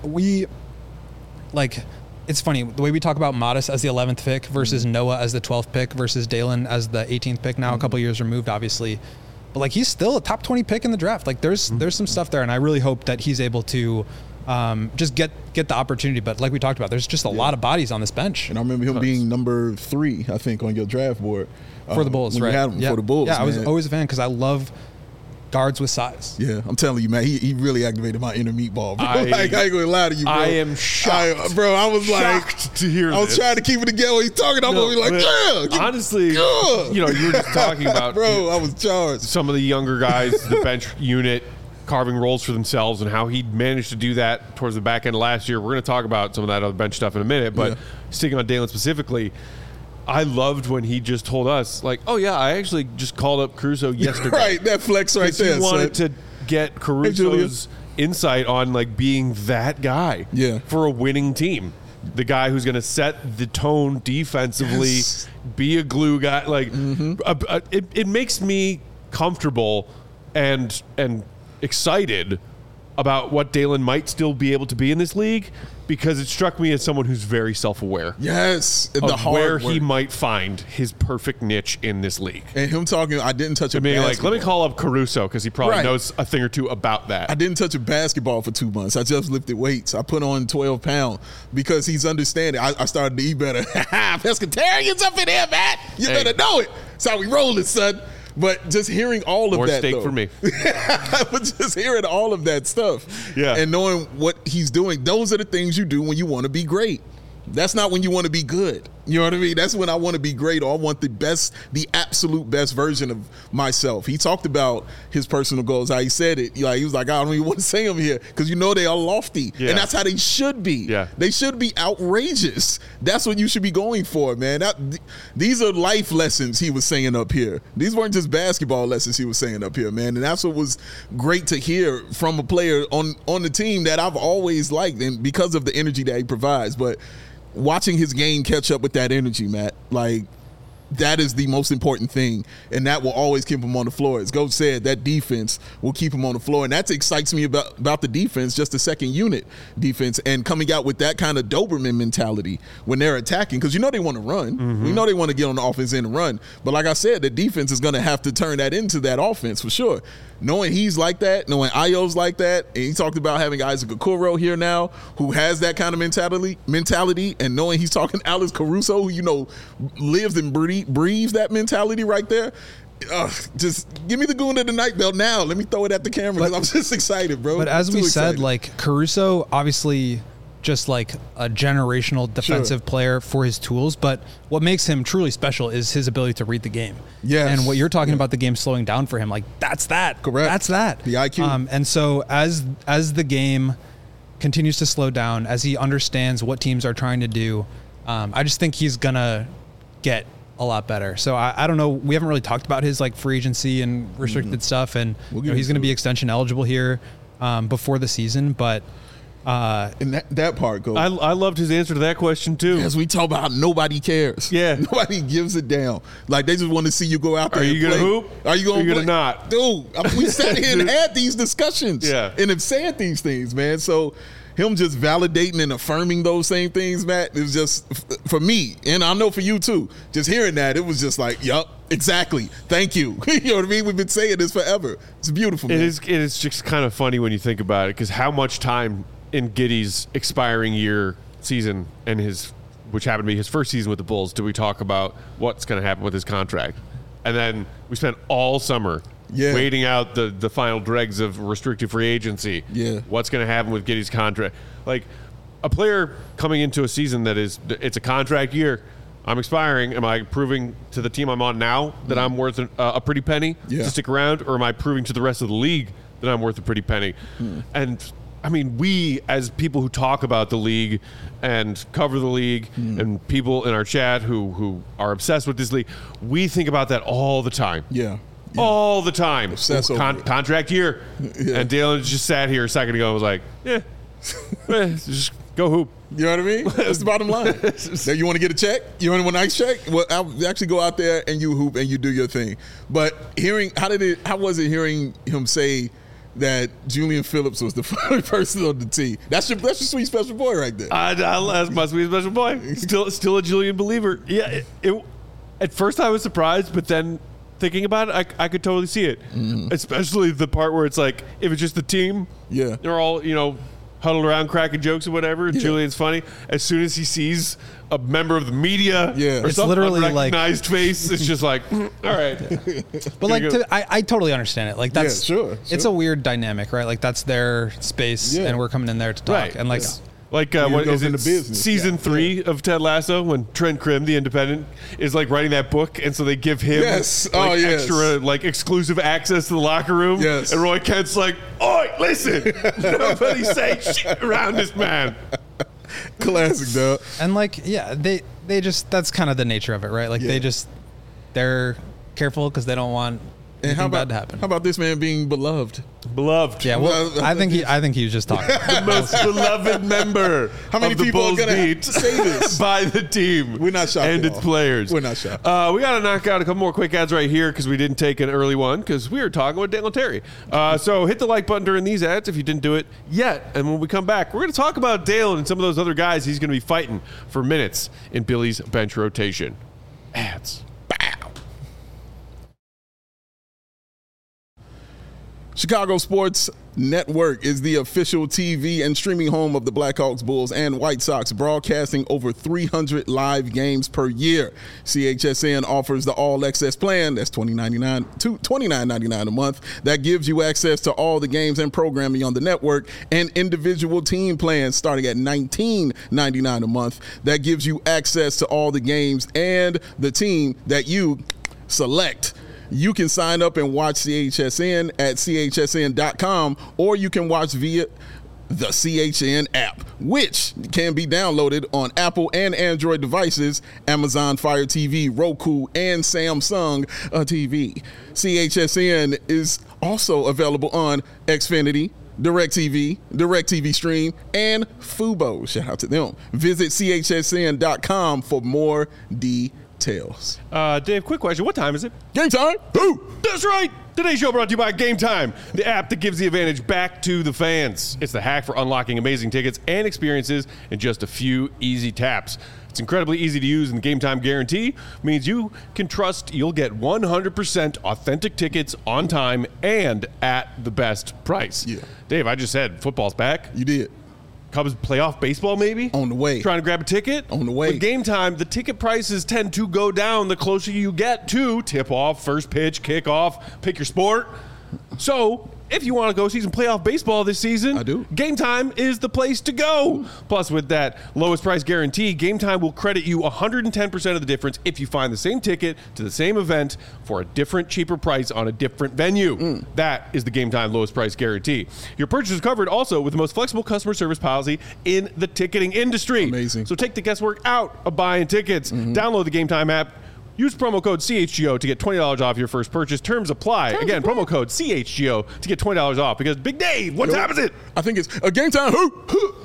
it's funny, the way we talk about Modest as the 11th pick versus Noah as the 12th pick versus Dalen as the 18th pick, now a couple years removed, obviously. But like, he's still a top 20 pick in the draft. Like, there's some stuff there, and I really hope that he's able to just get the opportunity. But like we talked about, there's just a lot of bodies on this bench. And I remember him being number 3, I think, on your draft board. For the Bulls, right? You had him for the Bulls. Yeah, I was always a fan because I love guards with size. Yeah, I'm telling you, man, he really activated my inner meatball, bro. I ain't gonna lie to you, bro. I am shocked. Bro, I was shocked to hear I was trying to keep it together when he's talking. I'm gonna be like, yeah. Honestly, you know, you were just talking about, bro, I was charged. Some of the younger guys, the bench unit, carving roles for themselves, and how he managed to do that towards the back end of last year. We're going to talk about some of that other bench stuff in a minute, but sticking on Dalen specifically, I loved when he just told us, like, oh, yeah, I actually just called up Caruso yesterday. Right, that flex right there. He wanted to get Caruso's insight on, like, being that guy for a winning team. The guy who's going to set the tone defensively, be a glue guy. Like, it makes me comfortable and excited about what Dalen might still be able to be in this league, because it struck me as someone who's very self-aware. Yes. Of where he might find his perfect niche in this league. And him talking, I didn't touch a basketball. Like, let me call up Caruso, because he probably knows a thing or two about that. I didn't touch a basketball for 2 months. I just lifted weights. I put on 12 pounds because he's understanding. I started to eat better. Pescatarians up in here, Matt. You better know it. That's how we rolling, son. But just hearing all of More that, steak for me. But just hearing all of that stuff, and knowing what he's doing, those are the things you do when you want to be great. That's not when you want to be good. You know what I mean? That's when I want to be great, or I want the best, the absolute best version of myself. He talked about his personal goals, how he said it. Like, he was like, I don't even want to say them here, because you know they are lofty. And that's how they should be. They should be outrageous. That's what you should be going for, man. These are life lessons he was saying up here. These weren't just basketball lessons he was saying up here, man. And that's what was great to hear from a player on the team that I've always liked, and because of the energy that he provides. But watching his game catch up with that energy, Matt, like, that is the most important thing, and that will always keep him on the floor. As Coach said, that defense will keep him on the floor, and that excites me about the defense, just the second unit defense, and coming out with that kind of Doberman mentality when they're attacking, because you know they want to run. We know they want to get on the offense end and run, but like I said, the defense is going to have to turn that into that offense for sure. Knowing he's like that, knowing Ayo's like that, and he talked about having Isaac Okoro here now who has that kind of mentality, and knowing he's talking Alex Caruso, who, you know, lives and breathes that mentality right there. Just give me the goon of the night belt now. Let me throw it at the camera, because I'm just excited, bro. But as we excited. said, like, Caruso obviously just like a generational defensive player for his tools, but what makes him truly special is his ability to read the game. And what you're talking about, the game slowing down for him, like, that's that. Correct. That's that. The IQ. And so as the game continues to slow down, as he understands what teams are trying to do, I just think he's gonna get a lot better. So I don't know. We haven't really talked about his, like, free agency and restricted stuff, and he's going to be extension eligible here before the season, but and that part goes. I loved his answer to that question too. As we talk about, nobody cares. Nobody gives a damn. Like, they just want to see you go out there. Are you going to hoop? Are you going to not? Dude, we sat here and had these discussions. And have said these things, man. So him just validating and affirming those same things, Matt, it was just, for me, and I know for you too, just hearing that, it was just like, yup, exactly. Thank you. You know what I mean? We've been saying this forever. It's beautiful, man. It is just kind of funny when you think about it, because how much time in Giddey's expiring year season and which happened to be his first season with the Bulls, do we talk about what's going to happen with his contract? And then we spent all summer waiting out the final dregs of restricted free agency. What's going to happen with Giddey's contract? Like, a player coming into a season it's a contract year. I'm expiring. Am I proving to the team I'm on now that I'm worth a pretty penny to stick around, or am I proving to the rest of the league that I'm worth a pretty penny? And I mean, we, as people who talk about the league and cover the league, and people in our chat who are obsessed with this league, we think about that all the time. All the time. Contract year. And Dalen just sat here a second ago and was like, just go hoop. You know what I mean? That's the bottom line. Now, you want to get a check? You want a nice check? Well, I'll actually go out there and you hoop and you do your thing. But how was it hearing him say that Julian Phillips was the first person on the team? That's your sweet special boy right there. That's my sweet special boy. Still a Julian believer. Yeah. At first I was surprised, but then thinking about it, I could totally see it. Especially the part where it's like, if it's just the team, they're all, huddled around cracking jokes or whatever. Yeah. Julian's funny. As soon as he sees a member of the media or It's some literally unrecognized face, it's just like, all right. But like, I totally understand it. Like that's sure. It's a weird dynamic, right? Like that's their space, and we're coming in there to talk. Right. And like, Like What is it into business. season 3 of Ted Lasso when Trent Crimm, the Independent, is like writing that book, and so they give him extra like exclusive access to the locker room. Yes. And Roy Kent's like, "Oi, listen, nobody say shit around this man." Classic, dog. and like, yeah, they just, that's kind of the nature of it, right? Like they're careful because they don't want anything bad to happen. How about this man being beloved? Beloved. Yeah, well, I think he was just talking. The most beloved member How many of the people are Bulls gonna beat say this? by the team. We're not shocked and at its all. players. We're not shocked. We got to knock out a couple more quick ads right here because we didn't take an early one because we were talking with Dalen Terry. So hit the like button during these ads if you didn't do it yet. And when we come back, we're going to talk about Dalen and some of those other guys he's going to be fighting for minutes in Billy's bench rotation. Ads. Chicago Sports Network is the official TV and streaming home of the Blackhawks, Bulls, and White Sox, broadcasting over 300 live games per year. CHSN offers the All Access plan, that's $29.99 a month, that gives you access to all the games and programming on the network, and individual team plans starting at $19.99 a month that gives you access to all the games and the team that you select. You can sign up and watch CHSN at chsn.com, or you can watch via the CHN app, which can be downloaded on Apple and Android devices, Amazon Fire TV, Roku, and Samsung TV. CHSN is also available on Xfinity, DirecTV, DirecTV Stream, and Fubo. Shout out to them. Visit chsn.com for more details. Dave, quick question. What time is it? Game time. Who? That's right. Today's show brought to you by Game Time, the app that gives the advantage back to the fans. It's the hack for unlocking amazing tickets and experiences in just a few easy taps. It's incredibly easy to use, and the Game Time guarantee means you can trust you'll get 100% authentic tickets on time and at the best price. Yeah. Dave, I just said football's back. You did. Cubs playoff baseball maybe? On the way. Trying to grab a ticket? On the way. With Game Time, the ticket prices tend to go down the closer you get to tip-off, first pitch, kickoff, pick your sport. So, if you want to go see some playoff baseball this season, I do. Game Time is the place to go. Plus, with that lowest price guarantee, Game Time will credit you 110% of the difference if you find the same ticket to the same event for a different, cheaper price on a different venue. That is the Game Time lowest price guarantee. Your purchase is covered also with the most flexible customer service policy in the ticketing industry. Amazing. So take the guesswork out of buying tickets. Download the Game Time app. Use promo code CHGO to get $20 off your first purchase. Terms apply. Again, promo code CHGO to get $20 off because Big Dave, what time is it? I think it's a Game Time. Who?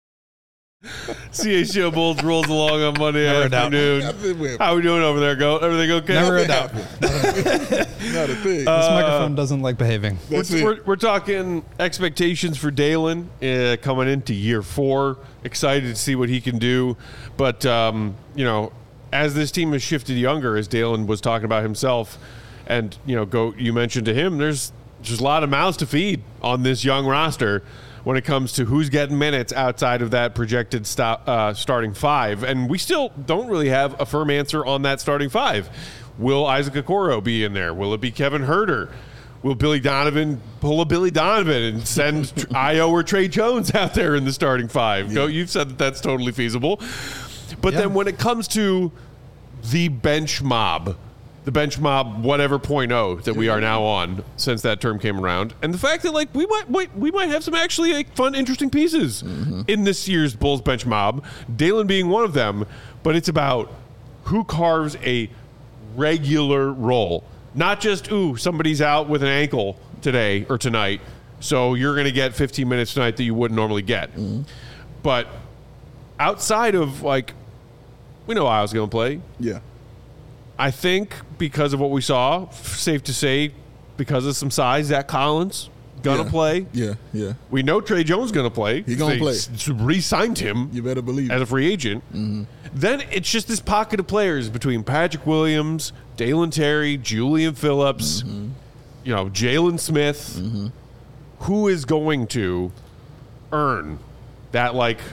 CHGO Bulls rolls along on Monday Never a doubt. afternoon. How we doing over there, Goat? Everything okay? Never a doubt. Not a thing. This microphone doesn't like behaving. That's it. We're talking expectations for Dalen coming into year 4. Excited to see what he can do. But, as this team has shifted younger, as Dalen was talking about himself, and, Goat, you mentioned to him, there's just a lot of mouths to feed on this young roster when it comes to who's getting minutes outside of that projected starting 5. And we still don't really have a firm answer on that starting 5. Will Isaac Okoro be in there? Will it be Kevin Huerter? Will Billy Donovan pull a Billy Donovan and send Io or Trey Jones out there in the starting 5? Goat, you've said that that's totally feasible. But then when it comes to the bench mob whatever 0.0 that we are now on since that term came around, and the fact that we might have some actually fun, interesting pieces in this year's Bulls bench mob, Dalen being one of them, but it's about who carves a regular role. Not just, somebody's out with an ankle today or tonight, so you're going to get 15 minutes tonight that you wouldn't normally get. But outside of, we know Io's going to play. Yeah. I think because of what we saw, safe to say, because of some size, Zach Collins going to play. Yeah. We know Trey Jones going to play. He going to play. Re-signed him. You better believe as it. a free agent. Then it's just this pocket of players between Patrick Williams, Dalen Terry, Julian Phillips, Jalen Smith. Who is going to earn that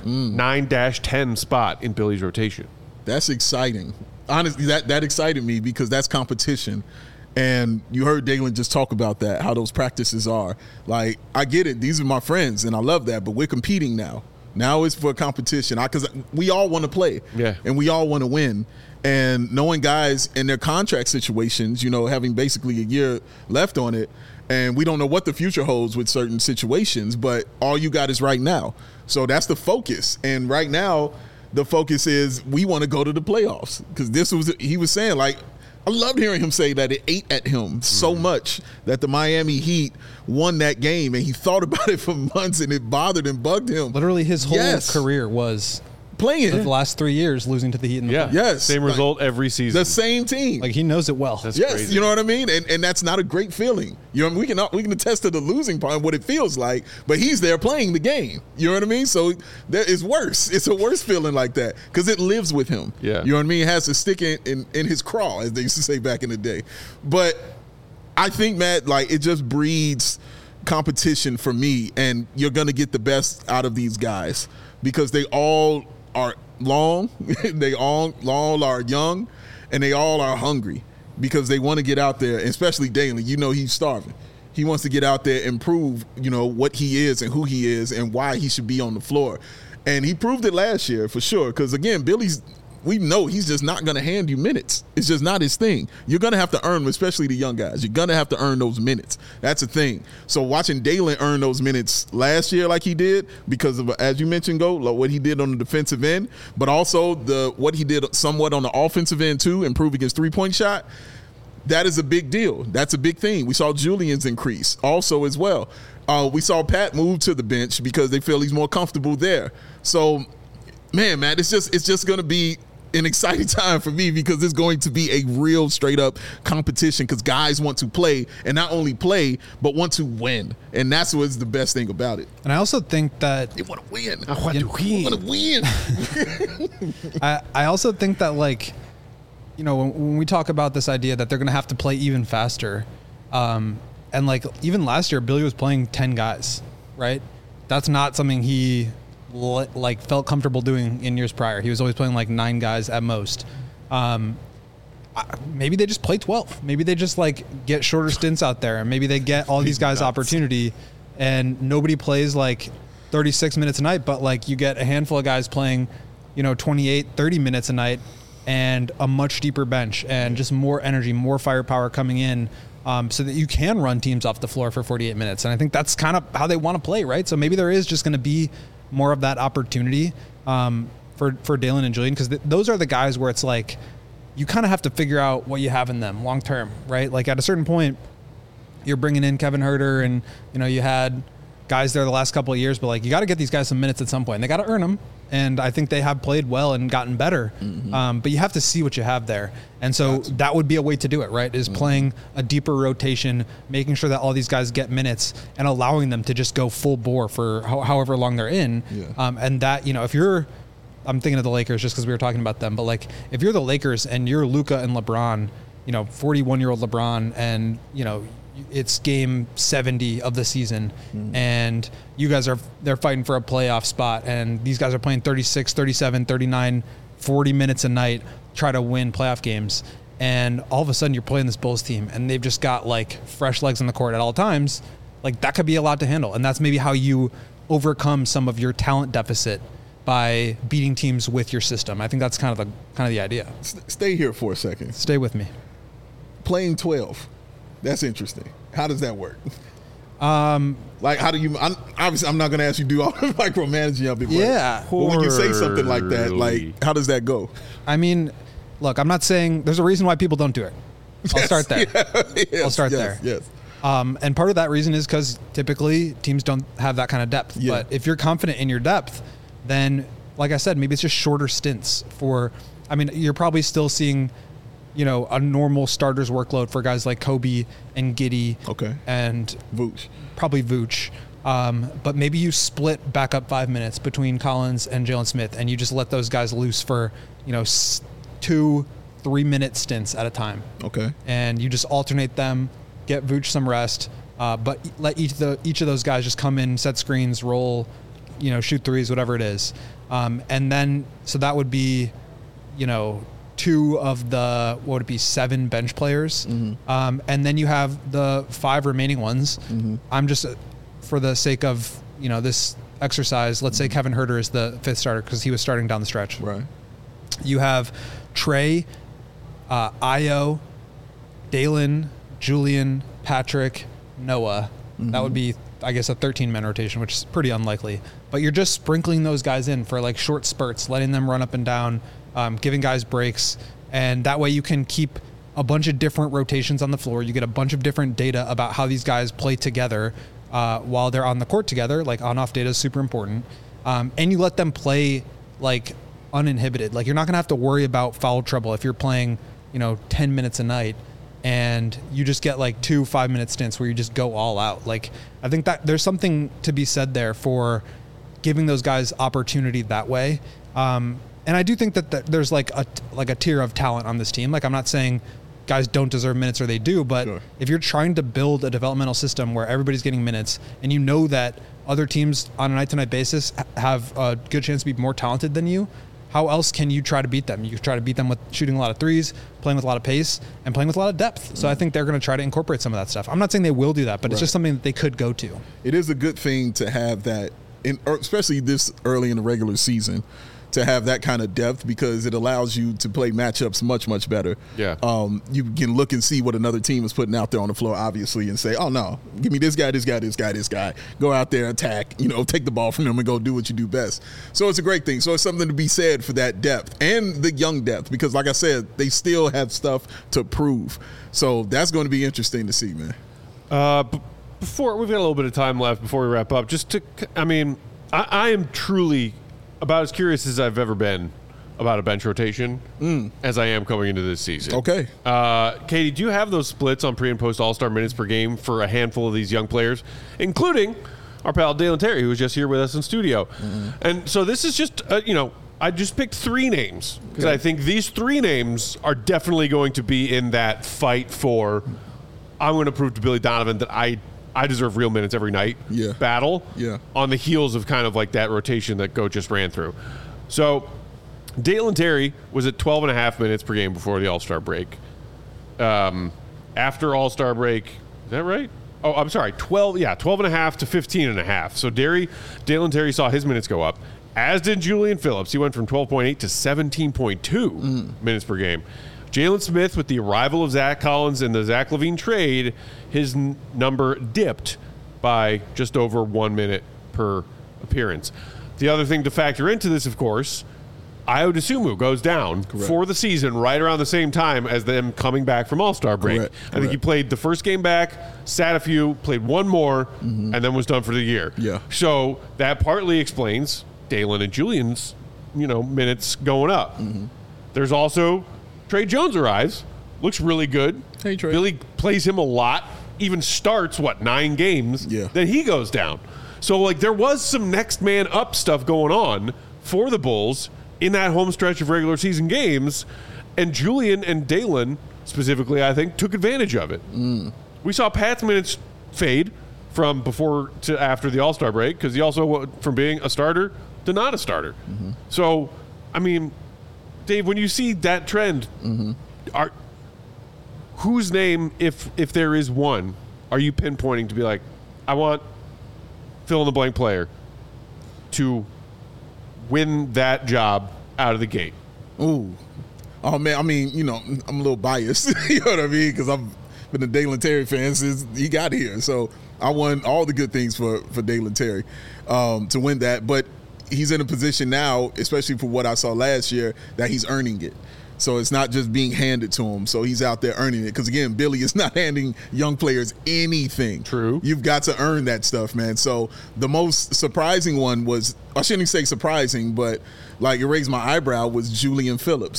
9-10 spot in Billy's rotation. That's exciting. Honestly, that excited me because that's competition. And you heard Dalen just talk about that, how those practices are. Like, I get it. These are my friends, and I love that. But we're competing now. Now it's for competition. Because we all want to play. Yeah. And we all want to win. And knowing guys in their contract situations, having basically a year left on it, and we don't know what the future holds with certain situations, but all you got is right now. So that's the focus. And right now, the focus is we want to go to the playoffs. Because he was saying, I loved hearing him say that it ate at him so much that the Miami Heat won that game, and he thought about it for months, and it bothered and bugged him. Literally, his whole career was playing the last 3 years losing to the Heat in the playoffs. Yes. Same result every season. The same team. He knows it well. That's crazy. You know what I mean? And that's not a great feeling. We can attest to the losing part and what it feels like, but he's there playing the game. You know what I mean? So it's worse. It's a worse feeling like that because it lives with him. Yeah. You know what I mean? It has to stick in his craw, as they used to say back in the day. But I think, Matt, it just breeds competition for me, and you're going to get the best out of these guys because they all are long, they all are young, and they all are hungry because they want to get out there, especially Dalen. He's starving. He wants to get out there and prove, what he is and who he is and why he should be on the floor. And he proved it last year for sure because, again, we know he's just not going to hand you minutes. It's just not his thing. You're going to have to earn them, especially the young guys. You're going to have to earn those minutes. That's a thing. So watching Dalen earn those minutes last year like he did because of, as you mentioned, what he did on the defensive end, but also what he did somewhat on the offensive end too, improving his three-point shot, that is a big deal. That's a big thing. We saw Julian's increase also as well. We saw Pat move to the bench because they feel he's more comfortable there. So, man, Matt, it's just going to be an exciting time for me because it's going to be a real straight up competition because guys want to play and not only play but want to win, and that's what's the best thing about it. And I also think that they want to win. I want to win. I also think that when we talk about this idea that they're going to have to play even faster, and even last year Billy was playing 10 guys, right? That's not something he felt comfortable doing in years prior. He was always playing 9 guys at most. Maybe they just play 12. Maybe they just get shorter stints out there, and maybe they get all these guys opportunity, and nobody plays 36 minutes a night, but you get a handful of guys playing 28, 30 minutes a night, and a much deeper bench and just more energy, more firepower coming in, so that you can run teams off the floor for 48 minutes. And I think that's kind of how they want to play, right? So maybe there is just going to be more of that opportunity for Dalen and Julian, because those are the guys where it's you kind of have to figure out what you have in them long term, right? At a certain point, you're bringing in Kevin Huerter, and you had guys there the last couple of years, but you got to get these guys some minutes at some point. They got to earn them, and I think they have played well and gotten better. Mm-hmm. But you have to see what you have there, and so that would be a way to do it, right? Is playing a deeper rotation, making sure that all these guys get minutes, and allowing them to just go full bore for however long they're in. Yeah. And that if you're, I'm thinking of the Lakers just because we were talking about them, but if you're the Lakers and you're Luka and LeBron, 41-year-old LeBron, and it's game 70 of the season, and you guys they're fighting for a playoff spot, and these guys are playing 36, 37, 39, 40 minutes a night, try to win playoff games, and all of a sudden you're playing this Bulls team and they've just got fresh legs on the court at all times. That could be a lot to handle, and that's maybe how you overcome some of your talent deficit, by beating teams with your system. I think that's kind of the idea. Stay here for a second. Stay with me. Playing 12. That's interesting. How does that work? How do you? Obviously, I'm not going to ask you to do all the micromanaging of it. Yeah. But when you say something like that, how does that go? I mean, look, I'm not saying there's a reason why people don't do it. I'll start there. I'll start there. Yes. And part of that reason is because typically teams don't have that kind of depth. Yeah. But if you're confident in your depth, then, like I said, maybe it's just shorter stints you're probably still seeing a normal starter's workload for guys like Kobe and Giddey. Okay. And Vooch. Probably Vooch. But maybe you split back up 5 minutes between Collins and Jalen Smith, and you just let those guys loose for, 2-3 minute stints at a time. Okay. And you just alternate them, get Vooch some rest, but let each of those guys just come in, set screens, roll, shoot threes, whatever it is. And then, so that would be, 2 of the, what would it be, 7 bench players. And then you have the 5 remaining ones. I'm just, for the sake of, this exercise, let's say Kevin Huerter is the 5th starter because he was starting down the stretch. Right. You have Trey, Ayo, Dalen, Julian, Patrick, Noah. That would be, I guess, a 13-man rotation, which is pretty unlikely. But you're just sprinkling those guys in for like short spurts, letting them run up and down, giving guys breaks. And that way you can keep a bunch of different rotations on the floor. You get a bunch of different data about how these guys play together while they're on the court together. Like on-off data is super important. And you let them play like uninhibited. Like you're not going to have to worry about foul trouble if you're playing, 10 minutes a night and you just get like 2 5-minute stints where you just go all out. Like I think that there's something to be said there for giving those guys opportunity that way. And I do think that there's like a tier of talent on this team. Like I'm not saying guys don't deserve minutes or they do, but if you're trying to build a developmental system where everybody's getting minutes and you know that other teams on a night-to-night basis have a good chance to be more talented than you, how else can you try to beat them? You try to beat them with shooting a lot of threes, playing with a lot of pace, and playing with a lot of depth. So I think they're going to try to incorporate some of that stuff. I'm not saying they will do that, but it's just something that they could go to. It is a good thing to have that, especially this early in the regular season, to have that kind of depth because it allows you to play matchups much, much better. Yeah. You can look and see what another team is putting out there on the floor, obviously, and say, oh, no, give me this guy, this guy, this guy, this guy. Go out there, attack, take the ball from them and go do what you do best. So it's a great thing. So it's something to be said for that depth and the young depth because, like I said, they still have stuff to prove. So that's going to be interesting to see, man. Before we've got a little bit of time left before we wrap up, I am truly about as curious as I've ever been about a bench rotation as I am coming into this season. Okay. Katie, do you have those splits on pre- and post-All-Star minutes per game for a handful of these young players, including our pal Dalen Terry, who was just here with us in studio? And so this is just, I just picked 3 names because I think these 3 names are definitely going to be in that fight for, I'm going to prove to Billy Donovan that I deserve real minutes every night battle on the heels of kind of like that rotation that Goat just ran through. So Dalen Terry was at 12.5 minutes per game before the All-Star break. After All-Star break, is that right? Oh, I'm sorry, 12.5 to 15.5. So Dalen Terry saw his minutes go up, as did Julian Phillips. He went from 12.8 to 17.2 minutes per game. Jalen Smith, with the arrival of Zach Collins and the Zach LaVine trade, his number dipped by just over 1 minute per appearance. The other thing to factor into this, of course, Ayo Dosunmu goes down for the season right around the same time as them coming back from All-Star break. I think he played the first game back, sat a few, played one more, and then was done for the year. Yeah. So that partly explains Dalen and Julian's, minutes going up. There's also Trey Jones arrives, looks really good. Hey, Trey. Billy plays him a lot, even starts, 9 games? Yeah. Then he goes down. So, there was some next man up stuff going on for the Bulls in that home stretch of regular season games, and Julian and Dalen, specifically, I think, took advantage of it. We saw Pat's minutes fade from before to after the All-Star break because he also went from being a starter to not a starter. So, Dave, when you see that trend, whose name, if there is one, are you pinpointing to be like, I want fill-in-the-blank player to win that job out of the gate? Ooh. Oh, man, I'm a little biased, you know what I mean? Because I've been a Dalen Terry fan since he got here. So I want all the good things for Dalen Terry to win that. But he's in a position now, especially for what I saw last year, that he's earning it. So it's not just being handed to him. So he's out there earning it. Because, again, Billy is not handing young players anything. True. You've got to earn that stuff, man. So the most surprising one was, I shouldn't say surprising, but, it raised my eyebrow, was Julian Phillips.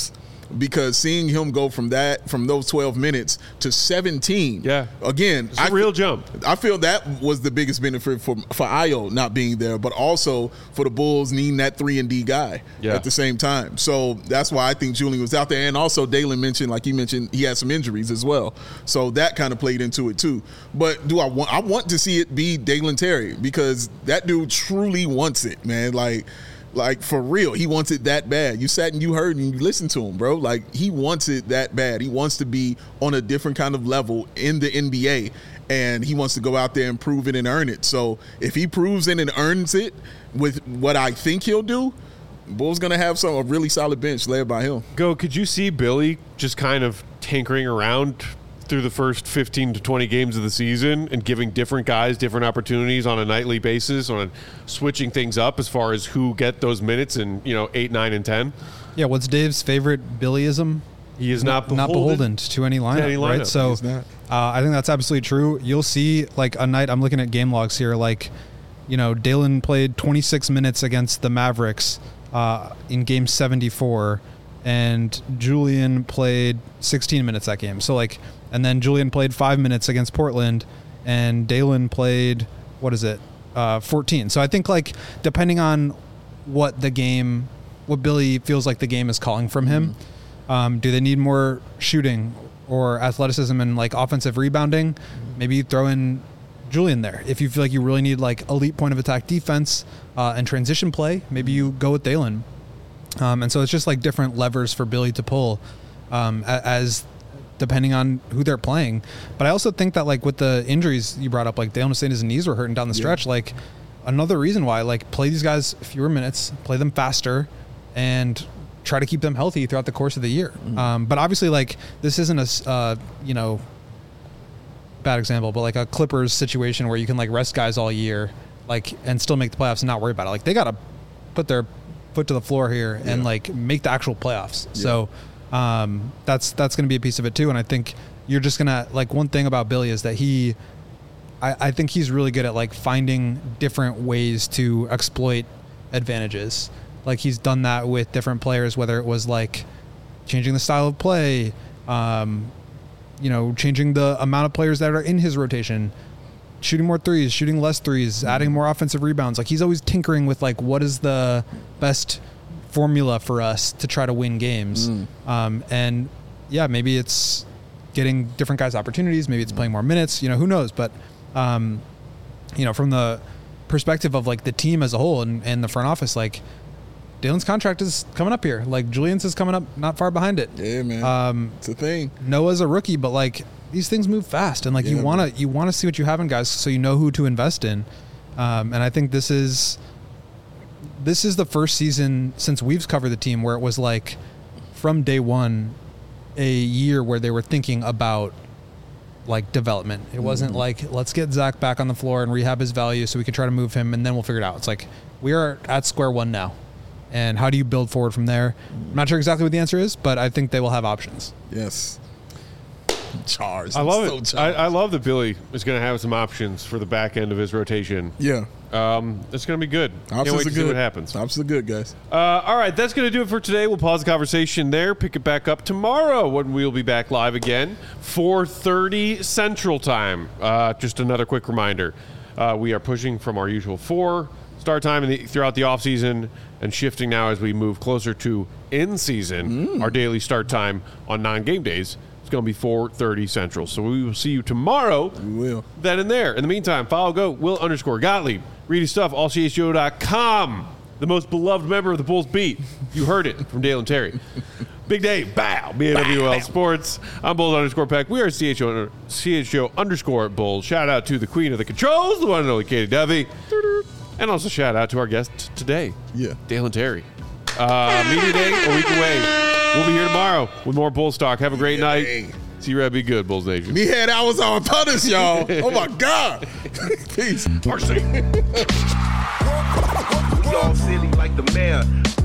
because seeing him go from those 12 minutes to 17. Yeah. Again, it's a real jump. I feel that was the biggest benefit for Ayo not being there, but also for the Bulls needing that 3-and-D guy at the same time. So that's why I think Julian was out there. And also Dalen mentioned, like he mentioned, he had some injuries as well. So that kind of played into it too. But I want to see it be Dalen Terry, because that dude truly wants it, man. Like for real, he wants it that bad. You sat and you heard and you listened to him, bro. Like, he wants it that bad. He wants to be on a different kind of level in the NBA, and he wants to go out there and prove it and earn it. So if he proves it and earns it with what I think he'll do, Bulls going to have a really solid bench led by him. Could you see Billy just kind of tinkering around through the first 15 to 20 games of the season and giving different guys different opportunities on a nightly basis, on switching things up as far as who get those minutes in 8, 9, and 10? Yeah, what's Dave's favorite Billyism? He is not beholden to any lineup, right? So I think that's absolutely true. You'll see, like, a night, I'm looking at game logs here, like, Dalen played 26 minutes against the Mavericks in game 74, and Julian played 16 minutes that game. So, like, and then Julian played 5 minutes against Portland, and Dalen played, 14. So I think, like, depending on what Billy feels like the game is calling from him, do they need more shooting or athleticism and, like, offensive rebounding? Maybe you throw in Julian there. If you feel like you really need, like, elite point of attack defense and transition play, maybe you go with Dalen. And so it's just, like, different levers for Billy to pull as depending on who they're playing. But I also think that, like, with the injuries you brought up, like, Dalen was saying his knees were hurting down the stretch. Like, another reason why, like, play these guys fewer minutes, play them faster, and try to keep them healthy throughout the course of the year. But obviously, like, this isn't a bad example, but like a Clippers situation where you can, like, rest guys all year, like, and still make the playoffs and not worry about it. Like, they got to put their foot to the floor here and, like, make the actual playoffs. So that's going to be a piece of it too. And I think you're just going to, like, one thing about Billy is that I think he's really good at, like, finding different ways to exploit advantages. Like, he's done that with different players, whether it was, like, changing the style of play, changing the amount of players that are in his rotation, shooting more threes, shooting less threes, adding more offensive rebounds. Like, he's always tinkering with, like, what is the best formula for us to try to win games. And yeah, maybe it's getting different guys opportunities. Maybe it's playing more minutes, who knows? But, from the perspective of, like, the team as a whole and the front office, like, Dalen's contract is coming up here. Like, Julian's is coming up not far behind it. Yeah, man. It's a thing. Noah's a rookie, but, like, these things move fast, and, like, you want to see what you have in guys so you know who to invest in. And I think this is the first season since we've covered the team where it was, like, from day one, a year where they were thinking about, like, development. It wasn't like, let's get Zach back on the floor and rehab his value so we can try to move him and then we'll figure it out. It's like, we are at square one now. And how do you build forward from there? I'm not sure exactly what the answer is, but I think they will have options. Yes. Charged. I love it. I love that Billy is going to have some options for the back end of his rotation. Yeah. It's going to be good. Can't wait to see what happens. Options are good, guys. All right, that's going to do it for today. We'll pause the conversation there, pick it back up tomorrow when we'll be back live again, 4:30 Central Time. Just another quick reminder. We are pushing from our usual 4 start time throughout the offseason and shifting now as we move closer to in-season. Our daily start time on non-game days is going to be 4:30 Central. So we will see you tomorrow. We will. Then and there. In the meantime, follow Will_Gottlieb. Read his stuff, allchgo.com. The most beloved member of the Bulls beat. You heard it from Dalen Terry. Big day. Bow. BAWL Sports. I'm Bulls_Peck. We are CHGO_Bulls. Shout out to the queen of the controls, the one and only Katie Duffy. And also shout out to our guest today, Dalen Terry. Media day, a week away. We'll be here tomorrow with more Bulls talk. Have a great night. See you, be good, Bulls Nation. Me had hours on punished, y'all. Oh my God. Peace. We all silly like the mayor.